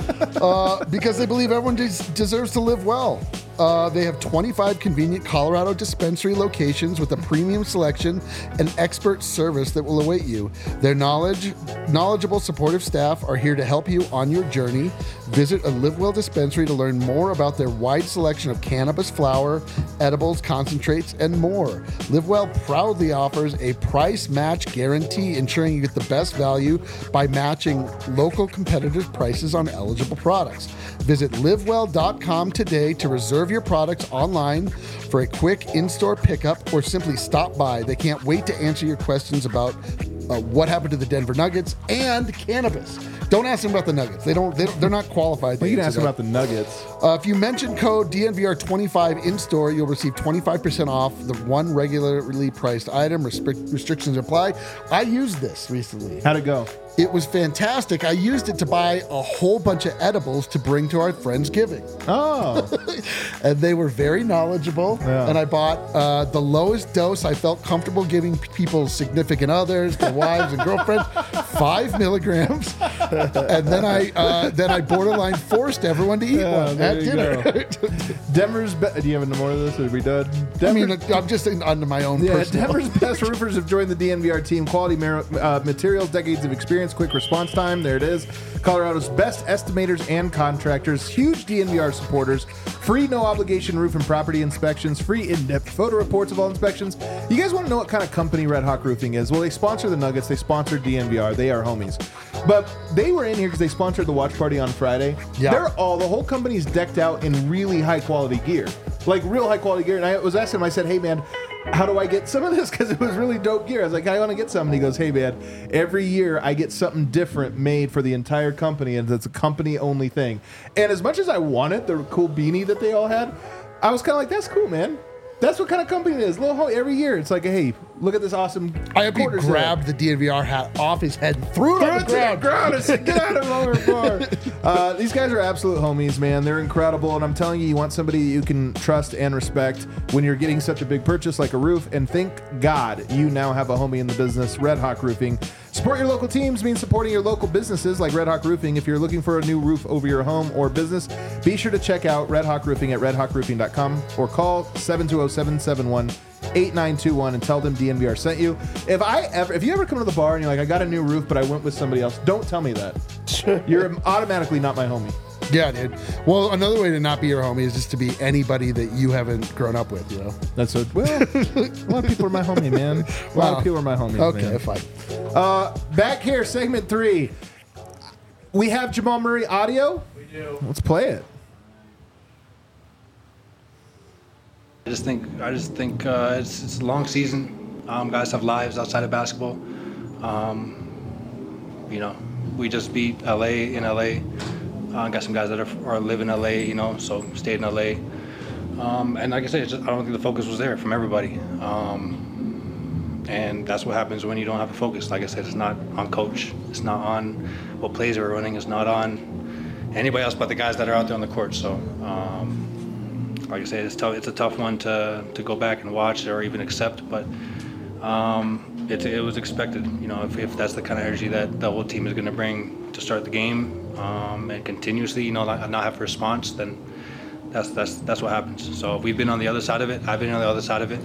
uh, because they believe everyone des- deserves to live well. Uh, they have twenty-five convenient Colorado dispensary locations with a premium selection and expert service that will await you. Their knowledge, knowledgeable, supportive staff are here to help you on your journey. Visit a Live Well dispensary to learn more about their wide selection of cannabis flower, edibles, concentrates, and more. Live Well proudly offers a price match guarantee, ensuring you get the best value by matching local competitors' prices on eligible products. Visit live well dot com today to reserve your products online for a quick in-store pickup or simply stop by. They can't wait to answer your questions about uh, what happened to the Denver Nuggets and cannabis. Don't ask them about the Nuggets. They don't. They don't they're not qualified. to you can answer ask that. about the Nuggets. Uh, if you mention code D N V R twenty-five in store, you'll receive twenty-five percent off the one regularly priced item. Restric- restrictions apply. I used this recently. How'd it go? It was fantastic. I used it to buy a whole bunch of edibles to bring to our Friendsgiving. Oh, And they were very knowledgeable. Yeah. And I bought uh, the lowest dose I felt comfortable giving people's significant others, their wives and girlfriends, five milligrams. And then I uh, then I borderline forced everyone to eat Yeah, one there at you dinner. Denver's. Be- Do you have any more of this? Are we done? I mean, Denver's- I'm just saying under my own Yeah, personal. Denver's best roofers have joined the D N V R team. Quality mar- uh, materials, decades of experience, quick response time. There it is. Colorado's best estimators and contractors. Huge D N V R supporters. Free no obligation roof and property inspections. Free in-depth photo reports of all inspections. You guys want to know what kind of company Red Hawk Roofing is? Well, they sponsor the Nuggets. They sponsor D N V R. They are homies. But they were in here because they sponsored the watch party on Friday. Yeah. They're all, the whole company's decked out in really high quality gear. Like real high quality gear. And I was asking him, I said, hey man, how do I get some of this? Because it was really dope gear. I was like, I want to get some. And he goes, hey man, every year I get something different made for the entire company, and it's a company only thing. And as much as I wanted the cool beanie that they all had, I was kind of like, that's cool, man. That's what kind of company it is. Little Ho- every year, it's like, hey, look at this awesome. I hope he quarter zip. grabbed the D N V R hat off his head and threw it Throw on it the to the ground. ground and said, get out of our bar. Uh, these guys are absolute homies, man. They're incredible. And I'm telling you, you want somebody you can trust and respect when you're getting such a big purchase like a roof. And thank God you now have a homie in the business, Red Hawk Roofing. Support your local teams means supporting your local businesses like Red Hawk Roofing. If you're looking for a new roof over your home or business, be sure to check out Red Hawk Roofing at red hawk roofing dot com or call seven two zero, seven seven one, eight nine two one and tell them D N V R sent you. If I ever, if you ever come to the bar and you're like, I got a new roof, but I went with somebody else, don't tell me that. You're automatically not my homie. Yeah, dude. Well, another way to not be your homie is just to be anybody that you haven't grown up with, you know? That's what. Well, a lot of people are my homie, man. A lot Wow. of people are my homies. Okay, man. fine. Uh, back here, segment three. We have Jamal Murray audio. We do. Let's play it. I just think I just think uh, it's it's a long season. Um, guys have lives outside of basketball. Um, you know, we just beat L A in L A. Uh, got some guys that are, are live in L A. You know, so stayed in L A. Um, and like I said, it's just, I don't think the focus was there from everybody. Um, and that's what happens when you don't have a focus. Like I said, it's not on coach. It's not on what plays we're running. It's not on anybody else but the guys that are out there on the court. So. Um, Like I said, it's tough. It's a tough one to, to go back and watch or even accept, but um, it, it was expected. You know, if, if that's the kind of energy that the whole team is going to bring to start the game um, and continuously, you know, not, not have a response, then that's that's that's what happens. So we've been on the other side of it. I've been on the other side of it,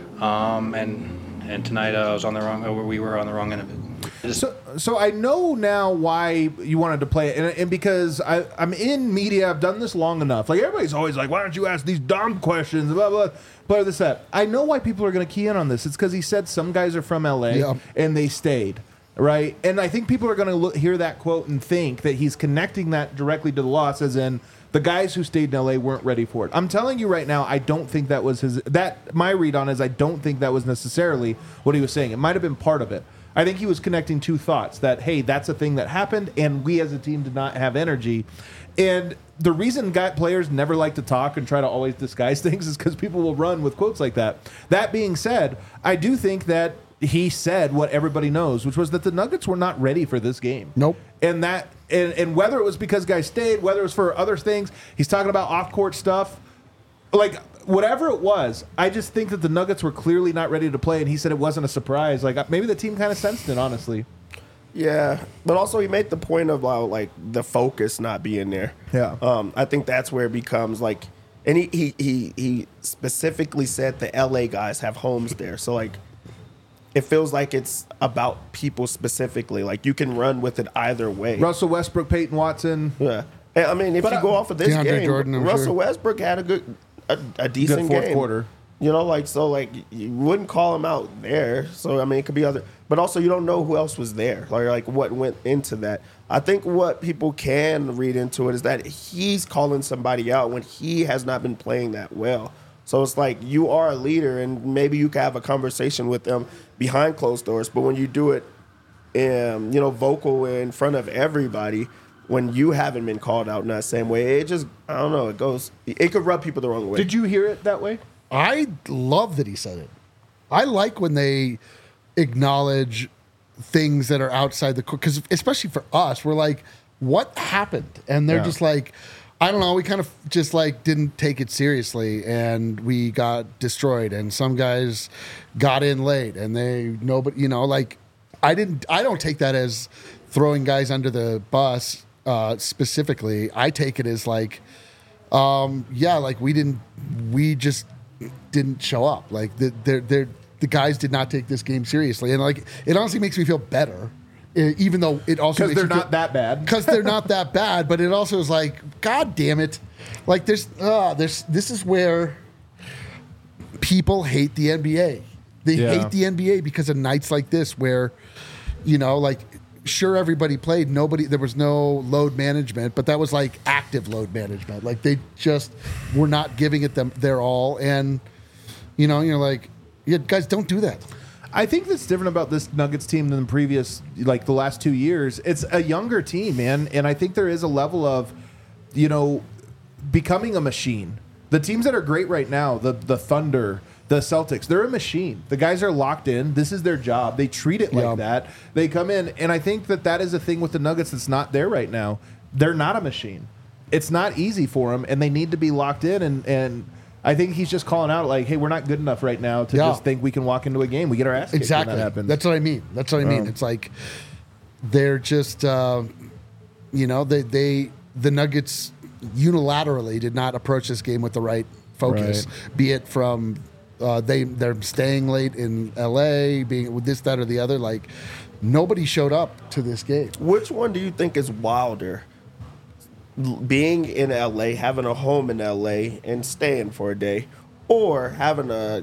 um, and and tonight uh, I was on the wrong. Or we were on the wrong end of it. Just, So, so I know now why you wanted to play it, and, and because I, I'm in media, I've done this long enough. Like everybody's always like, "Why don't you ask these dumb questions?" Blah blah. Blah this that. I know why people are going to key in on this. It's because he said some guys are from L A Yeah. and they stayed, right? And I think people are going to hear that quote and think that he's connecting that directly to the loss, as in the guys who stayed in L A weren't ready for it. I'm telling you right now, I don't think that was his. That my read on is I don't think that was necessarily what he was saying. It might have been part of it. I think he was connecting two thoughts that, hey, that's a thing that happened, and we as a team did not have energy. And the reason guy players never like to talk and try to always disguise things is because people will run with quotes like that. That being said, I do think that he said what everybody knows, which was that the Nuggets were not ready for this game. Nope. And that, and, and whether it was because guys stayed, whether it was for other things, he's talking about off-court stuff. Like, whatever it was, I just think that the Nuggets were clearly not ready to play, and he said it wasn't a surprise. Like, maybe the team kind of sensed it, honestly. Yeah, but also he made the point about like the focus not being there. Yeah. um, I think that's where it becomes like, and he he he, he specifically said the L A guys have homes there, so like it feels like it's about people specifically. Like you can run with it either way. Russell Westbrook, Peyton Watson. Yeah, and, I mean if But, you uh, go off of this DeAndre game, Jordan, I'm Russell sure. Westbrook had a good a, a decent fourth game. quarter. You know, like so, like you wouldn't call him out there. So I mean, it could be other, but also you don't know who else was there, like like what went into that. I think what people can read into it is that he's calling somebody out when he has not been playing that well. So it's like you are a leader, and maybe you can have a conversation with them behind closed doors. But when you do it, um, you know, vocal in front of everybody, when you haven't been called out in that same way, it just I don't know. It goes. It could rub people the wrong way. Did you hear it that way? I love that he said it. I like when they acknowledge things that are outside the court, because especially for us, we're like, what happened? And they're Yeah. just like, I don't know, we kind of just like didn't take it seriously, and we got destroyed, and some guys got in late, and they nobody, you know, like I didn't, I don't take that as throwing guys under the bus uh, specifically. I take it as like, um, yeah, like we didn't, we just didn't show up. Like the they're, they're, the guys did not take this game seriously, and like it honestly makes me feel better, eh, even though it also Because makes they're me not that bad. because they're not that bad. But it also is like, God damn it, like there's uh, there's this is where people hate the N B A. They Yeah. hate the N B A because of nights like this where, you know, like sure everybody played, nobody there was no load management, but that was like active load management. Like they just were not giving it them their all, and you know, you're like, yeah, guys, don't do that. I think that's different about this Nuggets team than the previous, like the last two years. It's a younger team, man, and I think there is a level of, you know, becoming a machine. The teams that are great right now, the the Thunder, the Celtics, they're a machine. The guys are locked in. This is their job. They treat it like Yeah. that. They come in, and I think that that is a thing with the Nuggets that's not there right now. They're not a machine. It's not easy for them, and they need to be locked in. And and I think he's just calling out like, hey, we're not good enough right now to Yeah. just think we can walk into a game. We get our ass kicked Exactly. when that happens. That's what I mean. That's what I mean. Um, It's like they're just, uh, you know, they they the Nuggets unilaterally did not approach this game with the right focus. Be it from uh, they they're staying late in L A, being with this, that, or the other. Like nobody showed up to this game. Which one do you think is wilder? l- being in L A, having a home in L A, and staying for a day, or having a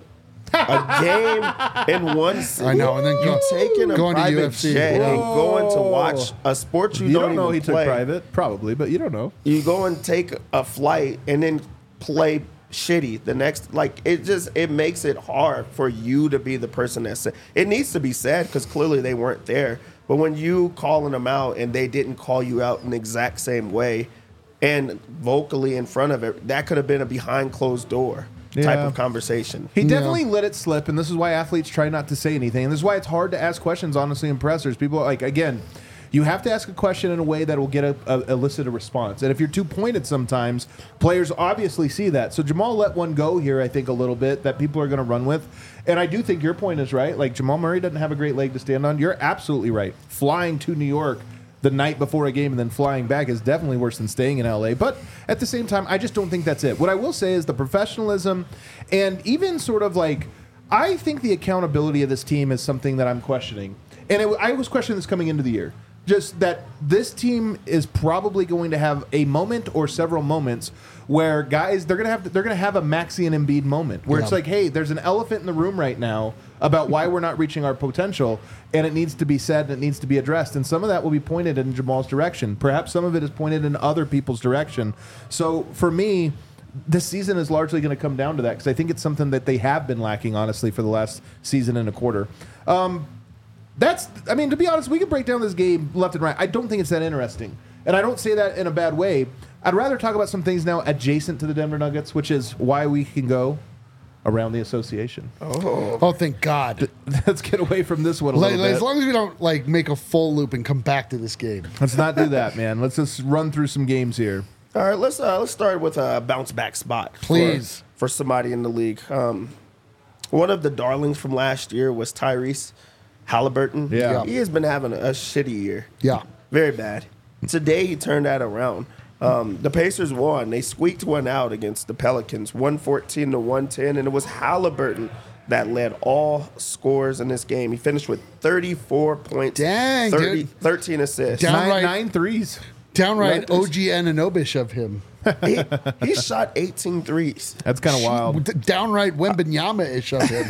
a game in one city. I know, and then you go- taking a going to private U F C. jet and Whoa. going to watch a sport you, You don't, don't know even he took play. private, probably, but you don't know. You go and take a flight and then play shitty the next. Like it just it makes it hard for you to be the person that said it needs to be said because clearly they weren't there. But when you calling them out and they didn't call you out in the exact same way and vocally in front of it, that could have been a behind closed door type Yeah. of conversation. He Yeah. definitely let it slip, and this is why athletes try not to say anything. And this is why it's hard to ask questions, honestly, in pressers. People are like, again, you have to ask a question in a way that will get a, a elicit a response. And if you're too pointed sometimes, players obviously see that. So Jamal let one go here, I think, a little bit that people are going to run with. And I do think your point is right. Like, Jamal Murray doesn't have a great leg to stand on. You're absolutely right. Flying to New York the night before a game and then flying back is definitely worse than staying in L A. But at the same time, I just don't think that's it. What I will say is the professionalism and even sort of like, I think the accountability of this team is something that I'm questioning. And it, I was questioning this coming into the year. Just that this team is probably going to have a moment or several moments where guys they're gonna have they're gonna have a Maxey and Embiid moment where it's Yeah. like, hey, there's an elephant in the room right now about why we're not reaching our potential, and it needs to be said and it needs to be addressed. And some of that will be pointed in Jamal's direction. Perhaps some of it is pointed in other people's direction. So for me, this season is largely going to come down to that because I think it's something that they have been lacking, honestly, for the last season and a quarter. Um, That's, I mean, to be honest, we can break down this game left and right. I don't think it's that interesting. And I don't say that in a bad way. I'd rather talk about some things now adjacent to the Denver Nuggets, which is why we can go around the association. Oh, thank God. Let's get away from this one a Like, little like, bit. as long as we don't like make a full loop and come back to this game. Let's not do that, man. Let's just run through some games here. All right, let's uh, let's start with a bounce back spot, for- Please. for, somebody in the league. Um, one of the darlings from last year was Tyrese Halliburton. Yeah. he has been having a, a shitty year. Yeah. Very bad. Today he turned that around. Um, the Pacers won. They squeaked one out against the Pelicans, one fourteen to one ten, and it was Halliburton that led all scores in this game. He finished with thirty-four points, Dang, thirty, dude. thirteen assists. Down- Nine, Downright- nine threes. Downright Right. O G Anunobish of him. he, he shot eighteen threes. That's kind of wild. D- Downright Wembanyama-ish of him.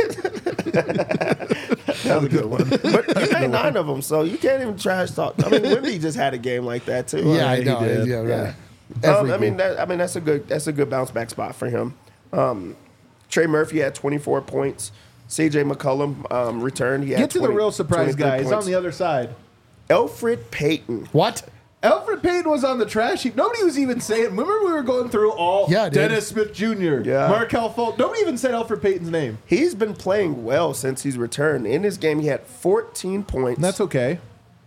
That was a good one. But you made nine of them, so you can't even trash talk. I mean, Wemby just had a game like that too. Yeah, I he know. did. Yeah, right. Yeah. Every Um, I mean, game. that, I mean that's a good that's a good bounce back spot for him. Um, Trey Murphy had twenty-four points. C J McCollum um, returned. He had Get to the twenty real surprise twenty-three guy. He's on points. the other side. Elfrid Payton. What? Alfred Payton was on the trash heap. Nobody was even saying. Remember, we were going through all Yeah, dude. Dennis Smith Junior, Yeah. Markelle Fultz. Nobody even said Alfred Payton's name. He's been playing well since he's returned. In his game, he had fourteen points. And that's okay.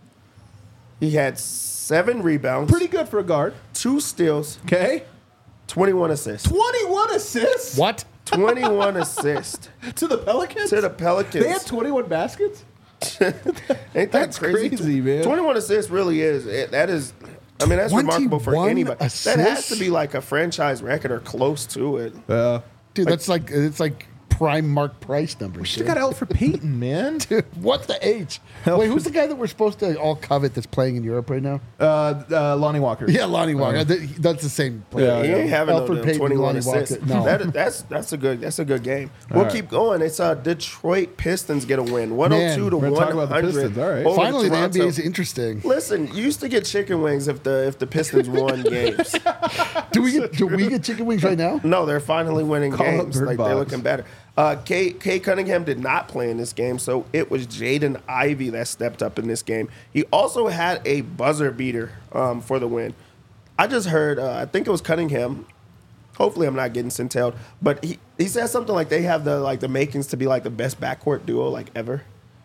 He had seven rebounds, Pretty good for a guard. two steals, Okay. twenty-one assists. twenty-one assists What? twenty-one assists to the Pelicans? to the Pelicans. They had twenty-one baskets? Ain't that That's crazy, man. twenty-one assists really is. It, that is, I mean, that's remarkable for twenty-one anybody. That has assists? to be like a franchise record or close to it. Uh, Dude, that's like it's like prime Mark Price numbers. should have got Alfred Payton, man. Dude, what the H? Wait, who's the guy that we're supposed to all covet that's playing in Europe right now? Uh, uh, Lonnie Walker. Yeah, Lonnie Walker. Th- That's the same player. Yeah, He ain't having Alfred no Payton, twenty-one Lonnie Walker. assists. No. That, that's that's a good that's a good game. We'll right. keep going. It's uh, Detroit Pistons get a win, one hundred two Man, to we're gonna one talk about the hundred. Pistons. All right. over Finally, the Toronto. N B A is interesting. Listen, you used to get chicken wings if the if the Pistons won games. Do we get do we get chicken wings right now? No, they're finally winning Call up games. Bird Like they're Box. looking better. Uh, Kay, Kay Cunningham did not play in this game, so it was Jaden Ivey that stepped up in this game. He also had a buzzer beater um, for the win. I just heard, uh, I think it was Cunningham. Hopefully, I'm not getting sent but he, he said something like they have the like the makings to be like the best backcourt duo like ever.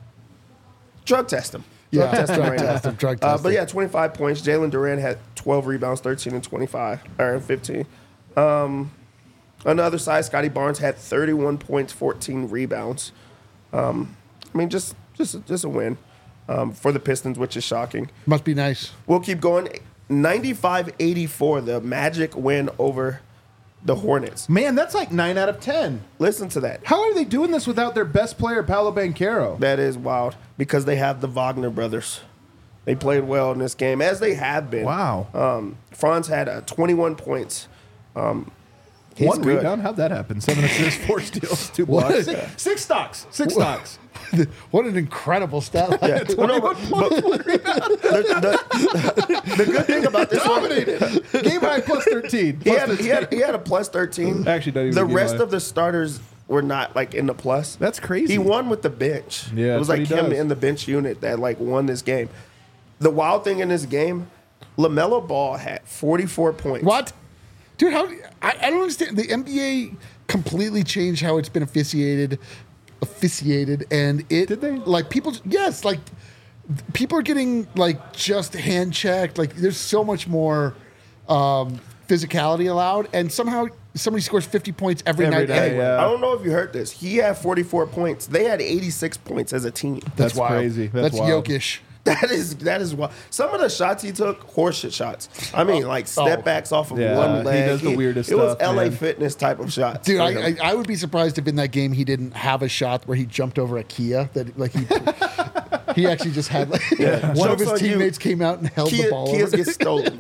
Drug test them. Drug Yeah, test them drug right test now. them, drug Uh, test but them. yeah, twenty-five points. Jalen Durant had twelve rebounds, thirteen and twenty-five or fifteen. Um, on the other side, Scotty Barnes had thirty-one points, fourteen rebounds. Um, I mean, just just just a win um, for the Pistons, which is shocking. Must be nice. We'll keep going. ninety-five eighty-four, the Magic win over the Hornets. Man, that's like nine out of ten. Listen to that. How are they doing this without their best player, Paolo Banchero? That is wild because they have the Wagner brothers. They played well in this game, as they have been. Wow. Um, Franz had uh, twenty-one points. Um, he's One good. rebound. How'd that happen? Seven assists, four steals, two What? blocks. Six, six stocks. Six stocks. What an incredible stat line. Yeah. Well, no, but- but the, the- the good thing about this one, Dominated. Game high plus thirteen. he Plus had, he, had, he had a plus thirteen. Actually, not even the a game rest high. of the starters were not like in the plus. That's crazy. He won with the bench. Yeah, it was that's like what he him does. in the bench unit that like won this game. The wild thing in this game, LaMelo Ball had forty-four points. What? Dude, how I, I don't understand. The N B A completely changed how it's been officiated officiated and it Did they? like people yes, like people are getting like just hand checked. Like there's so much more um physicality allowed, and somehow somebody scores fifty points every, Every night, night, anyway. yeah. I don't know if you heard this. He had forty-four points. They had eighty-six points as a team. That's wild. crazy. That's That's, wild. Jokic. That is that is what some of the shots he took, horseshit shots. I mean, like step Oh. backs off of Yeah, one he leg. does the weirdest It was stuff, L A man. Fitness type of shots. Dude, for I, him. I I would be surprised if in that game he didn't have a shot where he jumped over a Kia. That like he he actually just had like one of Joke's his on you. teammates came out and held Kia, the ball. Kias over. get stolen.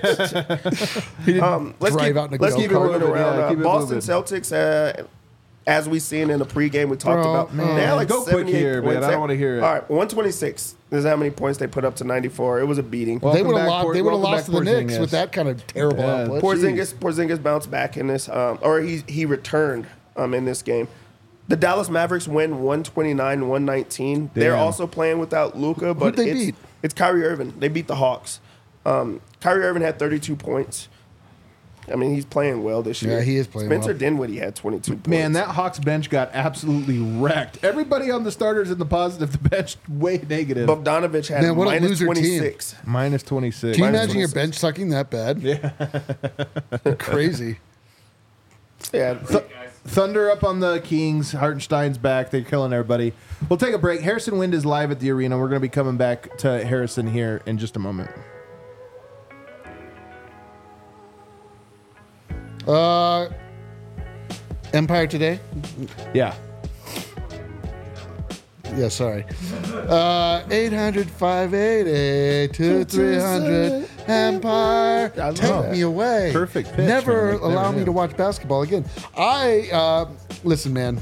He didn't Um, let's drive keep, out in a let's go keep it kart. moving around. Yeah, Uh, keep it Boston moving. Celtics, uh, as we seen in the pregame, we talked Bro, about. man. They had like Go quick seventy-eight here, man. points. I don't wanna hear it. All right, one twenty-six is how many points they put up to ninety-four. It was a beating. Well, They Welcome would have back, lost. Por- They would have welcome lost to the back, Knicks Porzingis. with that kind of terrible Yeah, output. Porzingis, Porzingis bounced back in this, um, or he he returned um, in this game. The Dallas Mavericks win one twenty-nine one nineteen. They're Damn. also playing without Luka, but they it's, beat? it's Kyrie Irving. They beat the Hawks. Um, Kyrie Irving had thirty-two points. I mean, he's playing well this year. Yeah, he is playing Spencer well. Dinwiddie had twenty-two points. Man, that Hawks bench got absolutely wrecked. Everybody on the starters in the positive, the bench way negative. Bogdanovich had Man, what a minus loser team. twenty-six. Minus twenty-six. Can you Minus imagine your twenty-six. bench sucking that bad? Yeah, crazy. Yeah, Th- Thunder up on the Kings. Hartenstein's back. They're killing everybody. We'll take a break. Harrison Wind is live at the arena. We're going to be coming back to Harrison here in just a moment. Uh, Empire Today. Yeah. Yeah, sorry. Uh, eight hundred, five eight eight, two three hundred Empire. I love Take that. me away. Perfect pitch, Never man. Like, allow never me knew. to watch basketball again. I, uh, listen, man.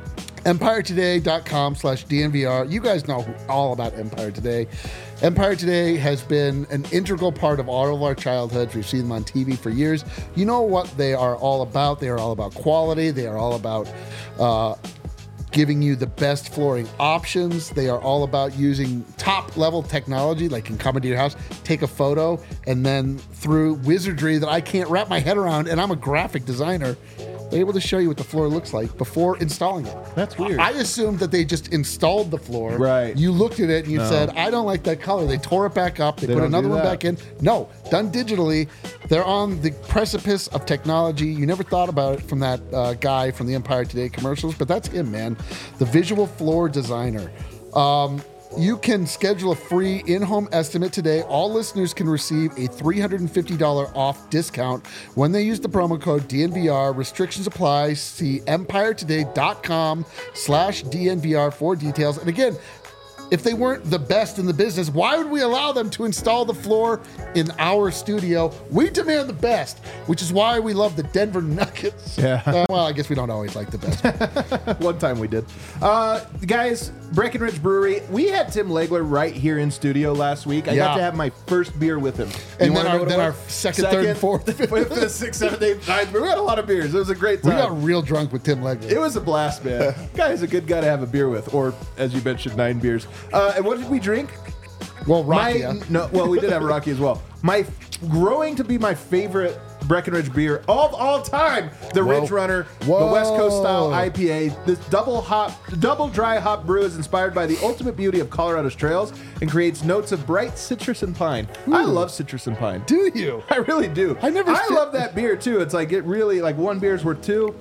EmpireToday.com slash DNVR. You guys know all about Empire Today. Empire Today has been an integral part of all of our childhoods. We've seen them on T V for years. You know what they are all about. They are all about quality. They are all about uh, giving you the best flooring options. They are all about using top level technology, like can come into your house, take a photo, and then through wizardry that I can't wrap my head around, and I'm a graphic designer, they're able to show you what the floor looks like before installing it. That's weird. I assumed that they just installed the floor. Right. You looked at it and you said, I don't like that color. They tore it back up. They, They put don't another do one that. back in. No, done digitally. They're on the precipice of technology. You never thought about it from that uh, guy from the Empire Today commercials, but that's him, man. The visual floor designer. Um, You can schedule a free in-home estimate today. All listeners can receive a three hundred fifty dollars off discount when they use the promo code D N V R. Restrictions apply. See empiretoday.com slash DNVR for details. And again, if they weren't the best in the business, why would we allow them to install the floor in our studio? We demand the best, which is why we love the Denver Nuggets. Yeah. Uh, well, I guess we don't always like the best. One time we did. Uh, guys, Breckenridge Brewery, we had Tim Legler right here in studio last week. I got Yeah. to have my first beer with him. And You then wanna our- know what it then was? our second, third, and fourth, fifth. fifth, sixth, seventh, eighth, ninth. We had a lot of beers. It was a great We time. got real drunk with Tim Legler. It was a blast, man. Guy's a good guy to have a beer with, or as you mentioned, nine beers. Uh, and what did we drink? well, My Rocky. huh? no, well, we did have Rocky as well. My growing to be my favorite Breckenridge beer of all time, the Whoa. Ridge Runner, Whoa. the West Coast style I P A. This double hop, double dry hop brew is inspired by the ultimate beauty of Colorado's trails and creates notes of bright citrus and pine. I love citrus and pine. Do you? I really do. I never I fit- love that beer too. It's like it really like one beer's worth two.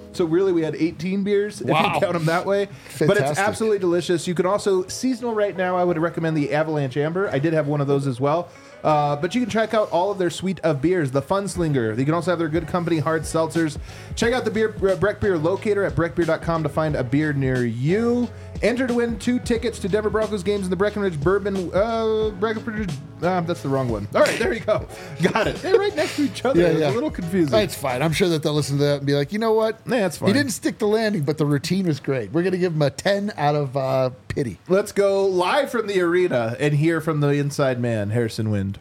So really, we had eighteen beers if Wow. you count them that way. But it's Fantastic. absolutely delicious. You can also seasonal right now. I would recommend the Avalanche Amber. I did have one of those as well. Uh, but you can check out all of their suite of beers. The Funslinger. You can also have their Good Company hard seltzers. Check out the beer uh, Breck Beer locator at breck beer dot com to find a beer near you. Enter to win two tickets to Denver Broncos games in the Breckenridge Bourbon. Uh, Breckenridge. Uh, that's the wrong one. All right, there you go. Got it. They're right next to each other. Yeah, It's yeah. a little confusing. It's fine. I'm sure that they'll listen to that and be like, you know what? Yeah, that's fine. He didn't stick the landing, but the routine was great. We're going to give him a ten out of uh, pity. Let's go live from the arena and hear from the inside man, Harrison Wind.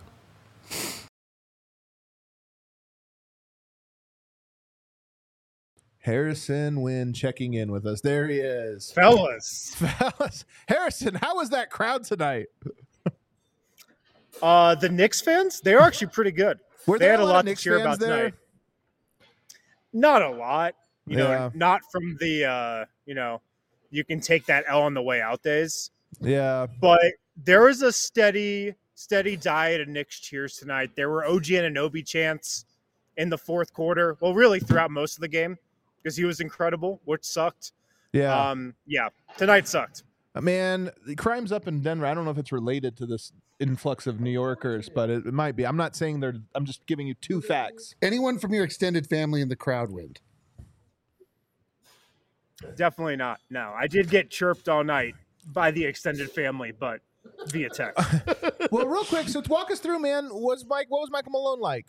Harrison Wind checking in with us. There he is. Fellas, Fellas. Harrison, how was that crowd tonight? uh, the Knicks fans, they were actually pretty good. Were they there had a a lot lot of to Knicks cheer fans about there? tonight. Not a lot, you Yeah. know, not from the, uh, you know, you can take that L on the way out days, Yeah. but there was a steady, steady diet of Knicks cheers tonight. There were O G Anunoby chants in the fourth quarter. Well, really throughout most of the game because he was incredible, which sucked. Yeah. Um, yeah, tonight sucked. Man, the crime's up in Denver. I don't know if it's related to this influx of New Yorkers, but it, it might be. I'm not saying they're, I'm just giving you two facts. Anyone from your extended family in the crowd wind? Definitely not. No, I did get chirped all night by the extended family, but via text. Well, real quick, so walk us through, man. Was Mike? What was Michael Malone like?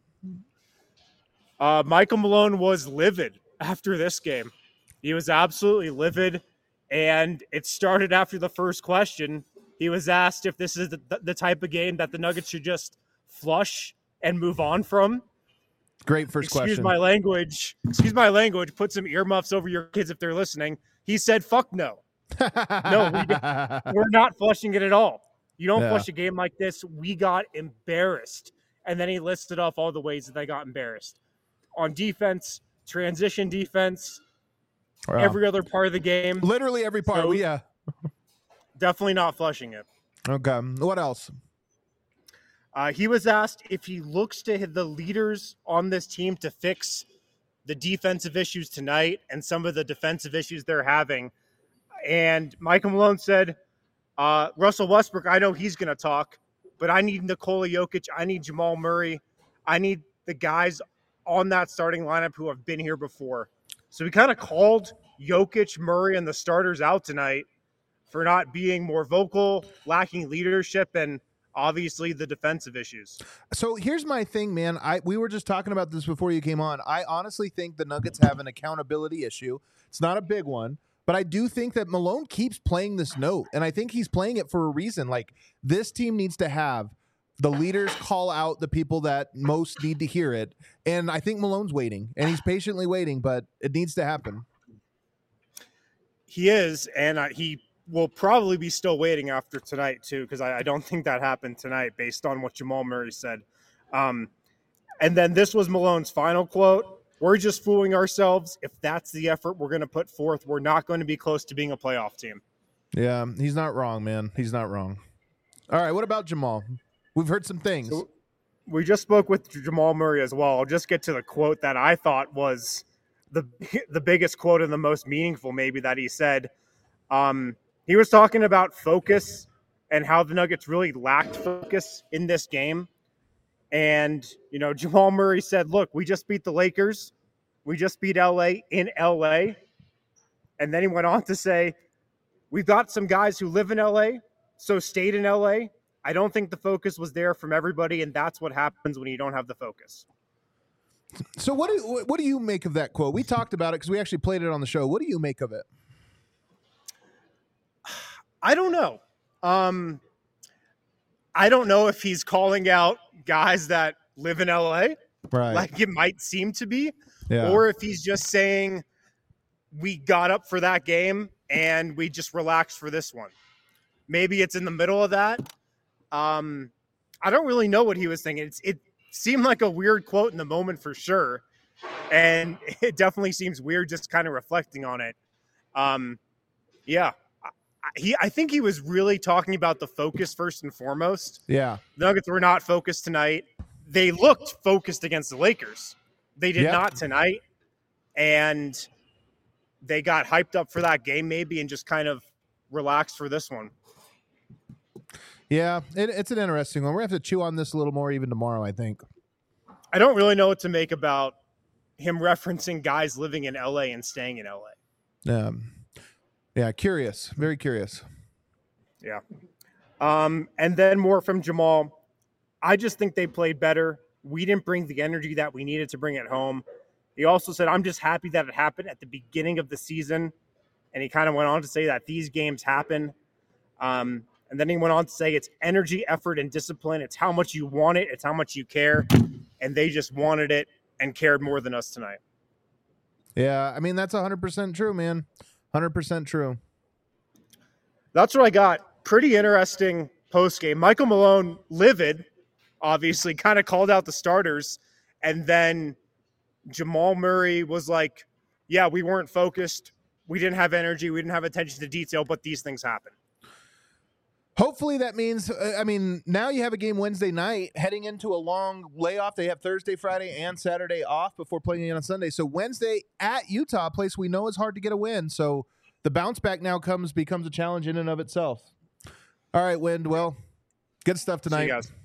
Uh, Michael Malone was livid after this game. He was absolutely livid, and it started after the first question. He was asked if this is the, the type of game that the Nuggets should just flush and move on from. Great first Excuse question. my language. Excuse my language. Put some earmuffs over your kids if they're listening. He said, "Fuck no." No, we We're not flushing it at all. You don't Yeah. flush a game like this. We got embarrassed. And then he listed off all the ways that they got embarrassed. On defense, transition defense, Wow. every other part of the game. Literally every part. So- we, yeah. Definitely not flushing it. Okay. What else? Uh, he was asked if he looks to the leaders on this team to fix the defensive issues tonight and some of the defensive issues they're having. And Michael Malone said, uh, Russell Westbrook, I know he's going to talk, but I need Nikola Jokic. I need Jamal Murray. I need the guys on that starting lineup who have been here before. So he kind of called Jokic, Murray, and the starters out tonight for not being more vocal, lacking leadership, and obviously the defensive issues. So here's my thing, man. I we were just talking about this before you came on. I honestly think the Nuggets have an accountability issue. It's not a big one, but I do think that Malone keeps playing this note, and I think he's playing it for a reason. Like, this team needs to have the leaders call out the people that most need to hear it, and I think Malone's waiting, and he's patiently waiting, but it needs to happen. He is, and uh, he will probably be still waiting after tonight too, because I, I don't think that happened tonight based on what Jamal Murray said. Um, and then this was Malone's final quote. We're just fooling ourselves. If that's the effort we're going to put forth, we're not going to be close to being a playoff team. Yeah, he's not wrong, man. He's not wrong. All right, what about Jamal? We've heard some things. So we just spoke with Jamal Murray as well. I'll just get to the quote that I thought was the the biggest quote and the most meaningful maybe that he said. Um, he was talking about focus and how the Nuggets really lacked focus in this game. And, you know, Jamal Murray said, look, we just beat the Lakers. We just beat L A in L A. And then he went on to say, we've got some guys who live in L A, so stayed in L A. I don't think the focus was there from everybody, and that's what happens when you don't have the focus. So what do what do you make of that quote? We talked about it because we actually played it on the show. What do you make of it? I don't know. Um, I don't know if he's calling out guys that live in L A, Right. like it might seem to be, Yeah. or if he's just saying we got up for that game and we just relaxed for this one. Maybe it's in the middle of that. Um, I don't really know what he was thinking. It's, it seemed like a weird quote in the moment for sure. And it definitely seems weird just kind of reflecting on it. Um, yeah. I, he, I think he was really talking about the focus first and foremost. Yeah. The Nuggets were not focused tonight. They looked focused against the Lakers. They did Yep. not tonight. And they got hyped up for that game maybe and just kind of relaxed for this one. Yeah, it, it's an interesting one. We're going to have to chew on this a little more even tomorrow, I think. I don't really know what to make about him referencing guys living in L A and staying in L A. Um, yeah, curious. Very curious. Yeah. Um, and then more from Jamal. I just think they played better. We didn't bring the energy that we needed to bring it home. He also said, I'm just happy that it happened at the beginning of the season. And he kind of went on to say that these games happen. Um, and then he went on to say it's energy, effort, and discipline. It's how much you want it. It's how much you care. And they just wanted it and cared more than us tonight. Yeah, I mean, that's one hundred percent true, man. one hundred percent true. That's what I got. Pretty interesting postgame. Michael Malone, livid, obviously, kind of called out the starters. And then Jamal Murray was like, yeah, we weren't focused. We didn't have energy. We didn't have attention to detail, but these things happen. Hopefully that means, uh, I mean, now you have a game Wednesday night heading into a long layoff. They have Thursday, Friday, and Saturday off before playing again on Sunday. So Wednesday at Utah, a place we know is hard to get a win. So the bounce back now comes becomes a challenge in and of itself. All right, Wind. Well, good stuff tonight. See you guys.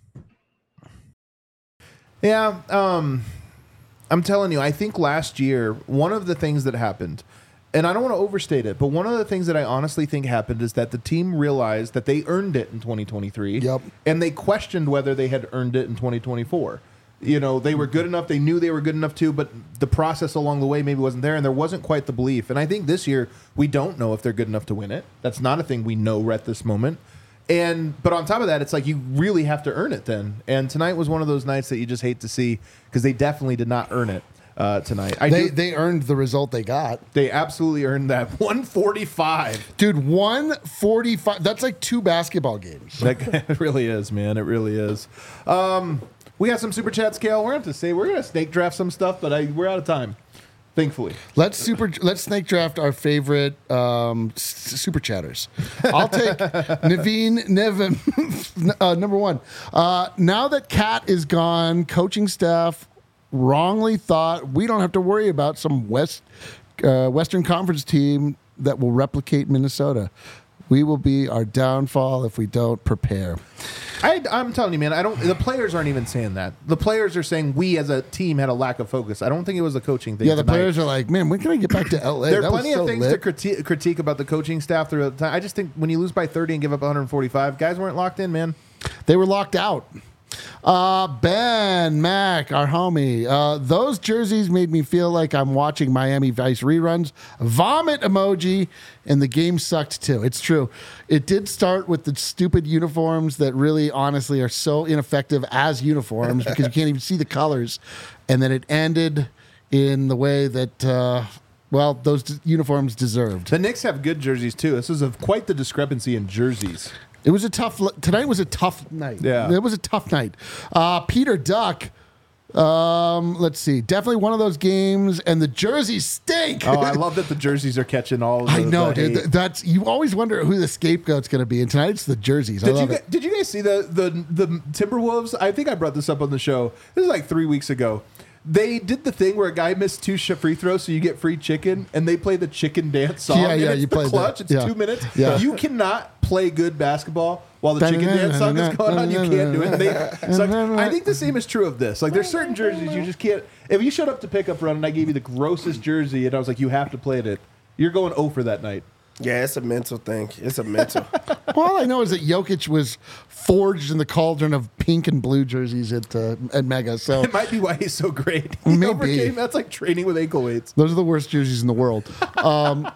Yeah, um, I'm telling you, I think last year, one of the things that happened, and I don't want to overstate it, but one of the things that I honestly think happened is that the team realized that they earned it in twenty twenty-three. Yep. And they questioned whether they had earned it in twenty twenty-four. You know, they were good enough. They knew they were good enough too, but the process along the way maybe wasn't there, and there wasn't quite the belief. And I think this year, we don't know if they're good enough to win it. That's not a thing we know at this moment. And but on top of that, it's like you really have to earn it then. And tonight was one of those nights that you just hate to see because they definitely did not earn it. Uh, tonight, I They do, they earned the result they got. they absolutely earned that one forty-five. Dude, one forty-five. That's like two basketball games. That it really is, man. It really is. Um, we got some super chats, Kale. We're going to have to say we're going to snake draft some stuff, but I, we're out of time. Thankfully, Let's super. Let's snake draft our favorite um, s- super chatters. I'll take Naveen Nevin, uh, number one. Uh, now that Cat is gone, coaching staff wrongly thought we don't have to worry about some West uh, Western Conference team that will replicate Minnesota. We will be our downfall if we don't prepare. I, I'm telling you, man. I don't. The players aren't even saying that. The players are saying we as a team had a lack of focus. I don't think it was a coaching thing. Yeah, the tonight. players are like, man, when can I get back to L A? There are That was plenty so of things lit." to critique, critique about the coaching staff throughout the time. I just think when you lose by thirty and give up one forty-five, guys weren't locked in, man. They were locked out. Uh, Ben Mac, our homie. Uh, those jerseys made me feel like I'm watching Miami Vice reruns. Vomit emoji, and the game sucked too. It's true. It did start with the stupid uniforms that really, honestly, are so ineffective as uniforms because you can't even see the colors. And then it ended in the way that, uh, well, those d- uniforms deserved. The Knicks have good jerseys too. This is a, quite the discrepancy in jerseys. It was a tough. Tonight was a tough night. Yeah. It was a tough night. Uh, Peter Duck. Um, let's see. Definitely one of those games, and the jerseys stink. Oh, I love that the jerseys are catching all. The, I know, the dude. hate. Th- That's you always wonder who the scapegoat's going to be, and tonight it's the jerseys. I Did you love gu- it. did you guys see the the the Timberwolves? I think I brought this up on the show. This is like three weeks ago. They did the thing where a guy missed two sh- free throws, so you get free chicken, and they play the chicken dance song. Yeah, and yeah, it's you the played that. clutch. It's Yeah. two minutes. Yeah. You cannot play good basketball while the chicken dance song is going on. You can't do it. And they, so like, I think the same is true of this. Like, there's certain jerseys you just can't. If you showed up to pick up run and I gave you the grossest jersey, and I was like, you have to play it, you're going oh for that night. Yeah, it's a mental thing. It's a mental. Well, all I know is that Jokic was forged in the cauldron of pink and blue jerseys at uh, at Mega. So It might be why he's so great. He Maybe. overcame. That's like training with ankle weights. those are the worst jerseys in the world. Um,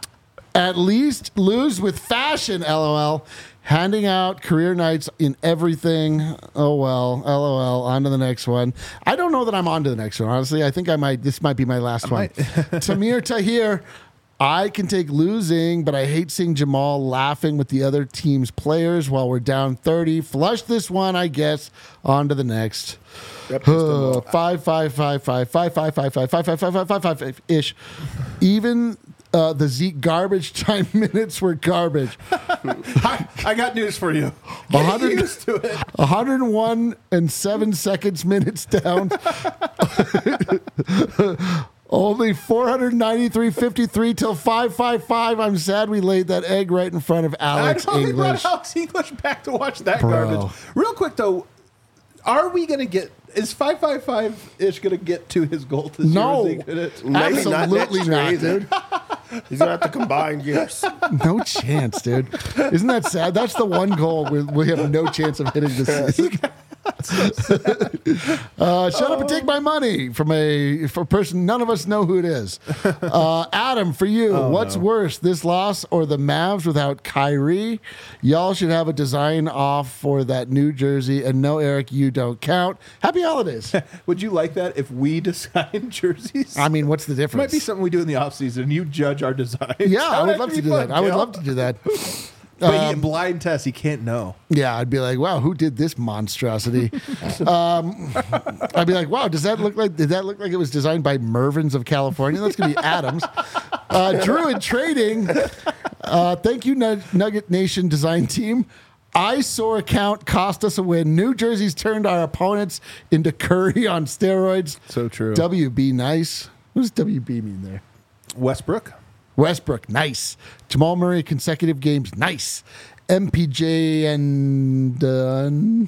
at least lose with fashion, LOL. Handing out career nights in everything. Oh, well, LOL. On to the next one. I don't know that I'm on to the next one, honestly. I think I might. This might be my last one. Tamir Tahir. I can take losing, but I hate seeing Jamal laughing with the other team's players while we're down thirty. Flush this one, I guess. On to the next. That pissed them Uh, off. five, five, five, five, five, five, five, five, five, five, five, five, five, five, five ish. Even uh, the Zeke garbage time minutes were garbage. I, I got news for you. A Get hundred- used to it. one hundred one and seven seconds minutes down. Only four ninety-three fifty-three till five fifty-five. I'm sad we laid that egg right in front of Alex I know, they English. brought Alex English back to watch that Bro. garbage. Real quick though, are we gonna get? Is five five five ish gonna get to his goal this No. year? Is he Maybe gonna- not Absolutely next not, year either. dude. He's gonna have to combine years. No chance, dude. Isn't that sad? That's the one goal we, we have no chance of hitting this season. uh, shut up and take my money from a for a person none of us know who it is. Uh, Adam, for you, what's worse, this loss or the Mavs without Kyrie? Y'all should have a design off for that New Jersey. And no, Eric, you don't count. Happy holidays. Would you like that if we design jerseys? I mean, what's the difference? Might be something we do in the off season. You judge our design. Yeah, I would love to do that. I would love to do that. But he, blind test, he can't know. Yeah, I'd be like, wow, who did this monstrosity? um, I'd be like, wow, does that look like? Did that look like it was designed by Mervyn's of California? That's gonna be Adams. Uh, Drew in trading. Uh, thank you, Nug- Nugget Nation design team. Eyesore account cost us a win. New Jersey's turned our opponents into Curry on steroids. So true. W B nice. What does W B mean there? Westbrook. Westbrook, nice. Jamal Murray, consecutive games, nice. M P J and Dunn,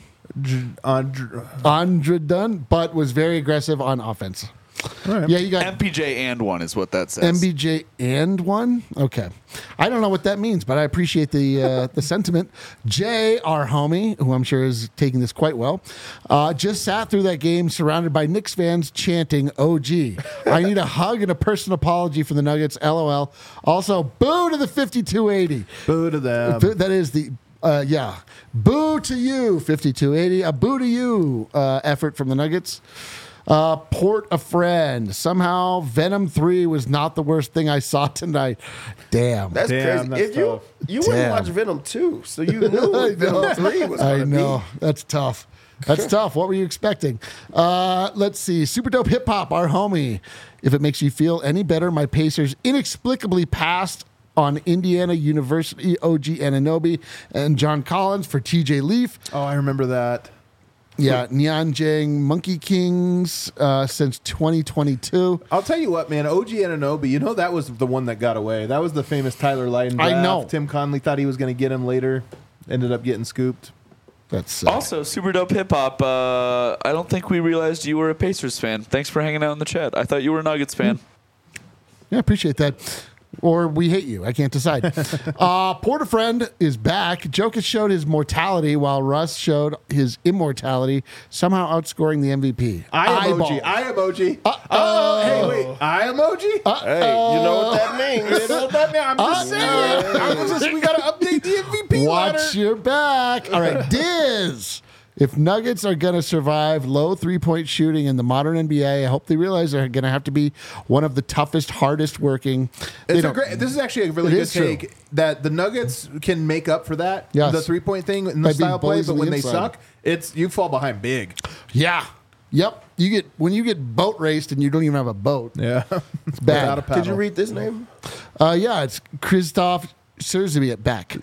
Andre, Andre Dunn, but was very aggressive on offense. right. Yeah, you got M P J and one is what that says. M B J and one. Okay, I don't know what that means, but I appreciate the uh, the sentiment. Jay, our homie, who I'm sure is taking this quite well, uh, just sat through that game surrounded by Knicks fans chanting "O G." I need a hug and a personal apology from the Nuggets. LOL. Also, boo to the fifty-two eighty. Boo to them. Boo- that is the. Uh, yeah. Boo to you, fifty-two eighty. A boo to you uh, effort from the Nuggets. Uh, port a friend. Somehow Venom three was not the worst thing I saw tonight. Damn. That's Damn, crazy. that's if you tough. you Damn. wouldn't watch Venom two, so you knew I what Venom know. three was I gonna know. be. That's tough. That's tough. What were you expecting? Uh, let's see. Super Dope Hip Hop, our homie. If it makes you feel any better, my Pacers inexplicably passed on Indiana University O G Ananobi and John Collins for T J Leaf. Oh, I remember that. Yeah, Nyanjang Monkey Kings uh, since twenty twenty-two. I'll tell you what, man. O G Ananobi, you know that was the one that got away. That was the famous Tyler Lydon I draft. know. Tim Conley thought he was going to get him later. Ended up getting scooped. That's uh, Also, super dope hip hop. Uh, I don't think we realized you were a Pacers fan. Thanks for hanging out in the chat. I thought you were a Nuggets fan. yeah, appreciate that. Or we hate you. I can't decide. uh, Porterfriend is back. Jokic showed his mortality while Russ showed his immortality, somehow outscoring the M V P. I Eyeball. emoji. I emoji. Oh, hey, wait. I emoji? Hey, you know what that You means? know what that means? I'm just saying. I'm just, we got to update the M V P Watch ladder. your back. All right, Diz. If Nuggets are going to survive low three-point shooting in the modern N B A, I hope they realize they're going to have to be one of the toughest, hardest working. They It's a don't- great, this is actually a really It good is true. take that the Nuggets can make up for that, Yes. the three point thing in By the being style play, bullies but on the when they inside. suck, it's you fall behind big. Yeah. Yep. You get when you get boat raced and you don't even have a boat. Yeah, It's bad. Without a paddle. Could you read this name? Uh, yeah, it's Krzysztof Zerbiak.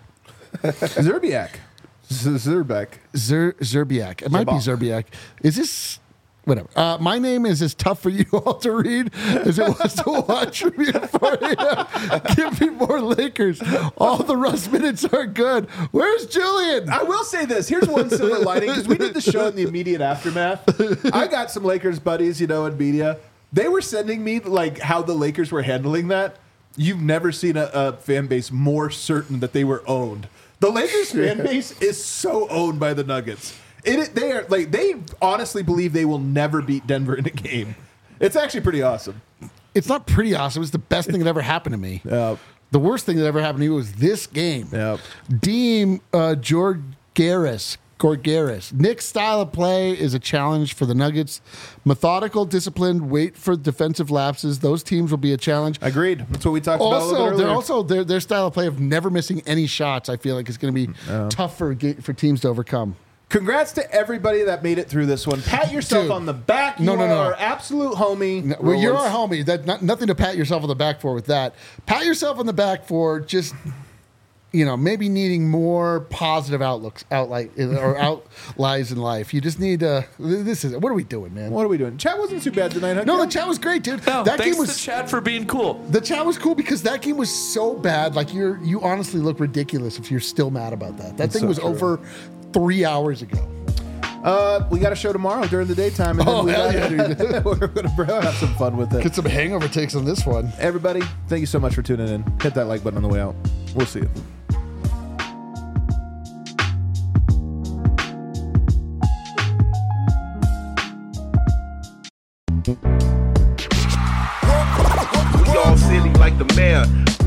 Zerbiak. Z- Zerbeck. Zer, Zerbiak. It might be Zerbiak. Is this whatever? Uh, my name is as tough for you all to read as it was to watch from you at four a.m. Give me more Lakers. All the Russ minutes are good. Where's Julian? I will say this. Here's one silver lining because we did the show in the immediate aftermath. I got some Lakers buddies, you know, in media. They were sending me like how the Lakers were handling that. You've never seen a, a fan base more certain that they were owned. The Lakers fan base is so owned by the Nuggets. It, they are like they honestly believe they will never beat Denver in a game. It's actually pretty awesome. It's not pretty awesome. It's the best thing that ever happened to me. Yep. The worst thing that ever happened to me was this game. Yep. Deem uh, Georgaris. Gorgaris. Nick's style of play is a challenge for the Nuggets. Methodical, disciplined, wait for defensive lapses. Those teams will be a challenge. Agreed. That's what we talked about a little Also, bit they're earlier. also their their style of play of never missing any shots. I feel like is going to be tough for ga- for teams to overcome. Congrats to everybody that made it through this one. Pat yourself Dude. on the back. You No, no, are no. our absolute homie. No, well, you're Rollins. our homie. That not, nothing to pat yourself on the back for with that. Pat yourself on the back for just you know, maybe needing more positive outlooks, outlight or outlies in life. You just need to. This is what are we doing, man? What are we doing? Chat wasn't too bad tonight, huh? No, Kel? the chat was great, dude. No, that thanks game was to Chad for being cool. the chat was cool because that game was so bad. Like you're you honestly look ridiculous if you're still mad about that. That That's thing so was true. over three hours ago. Uh, we got a show tomorrow during the daytime, and then Oh, we hell got, yeah, dude. we're gonna have some fun with it. Get some hangover takes on this one. Everybody, thank you so much for tuning in. Hit that like button on the way out. We'll see you. We all silly like the mayor.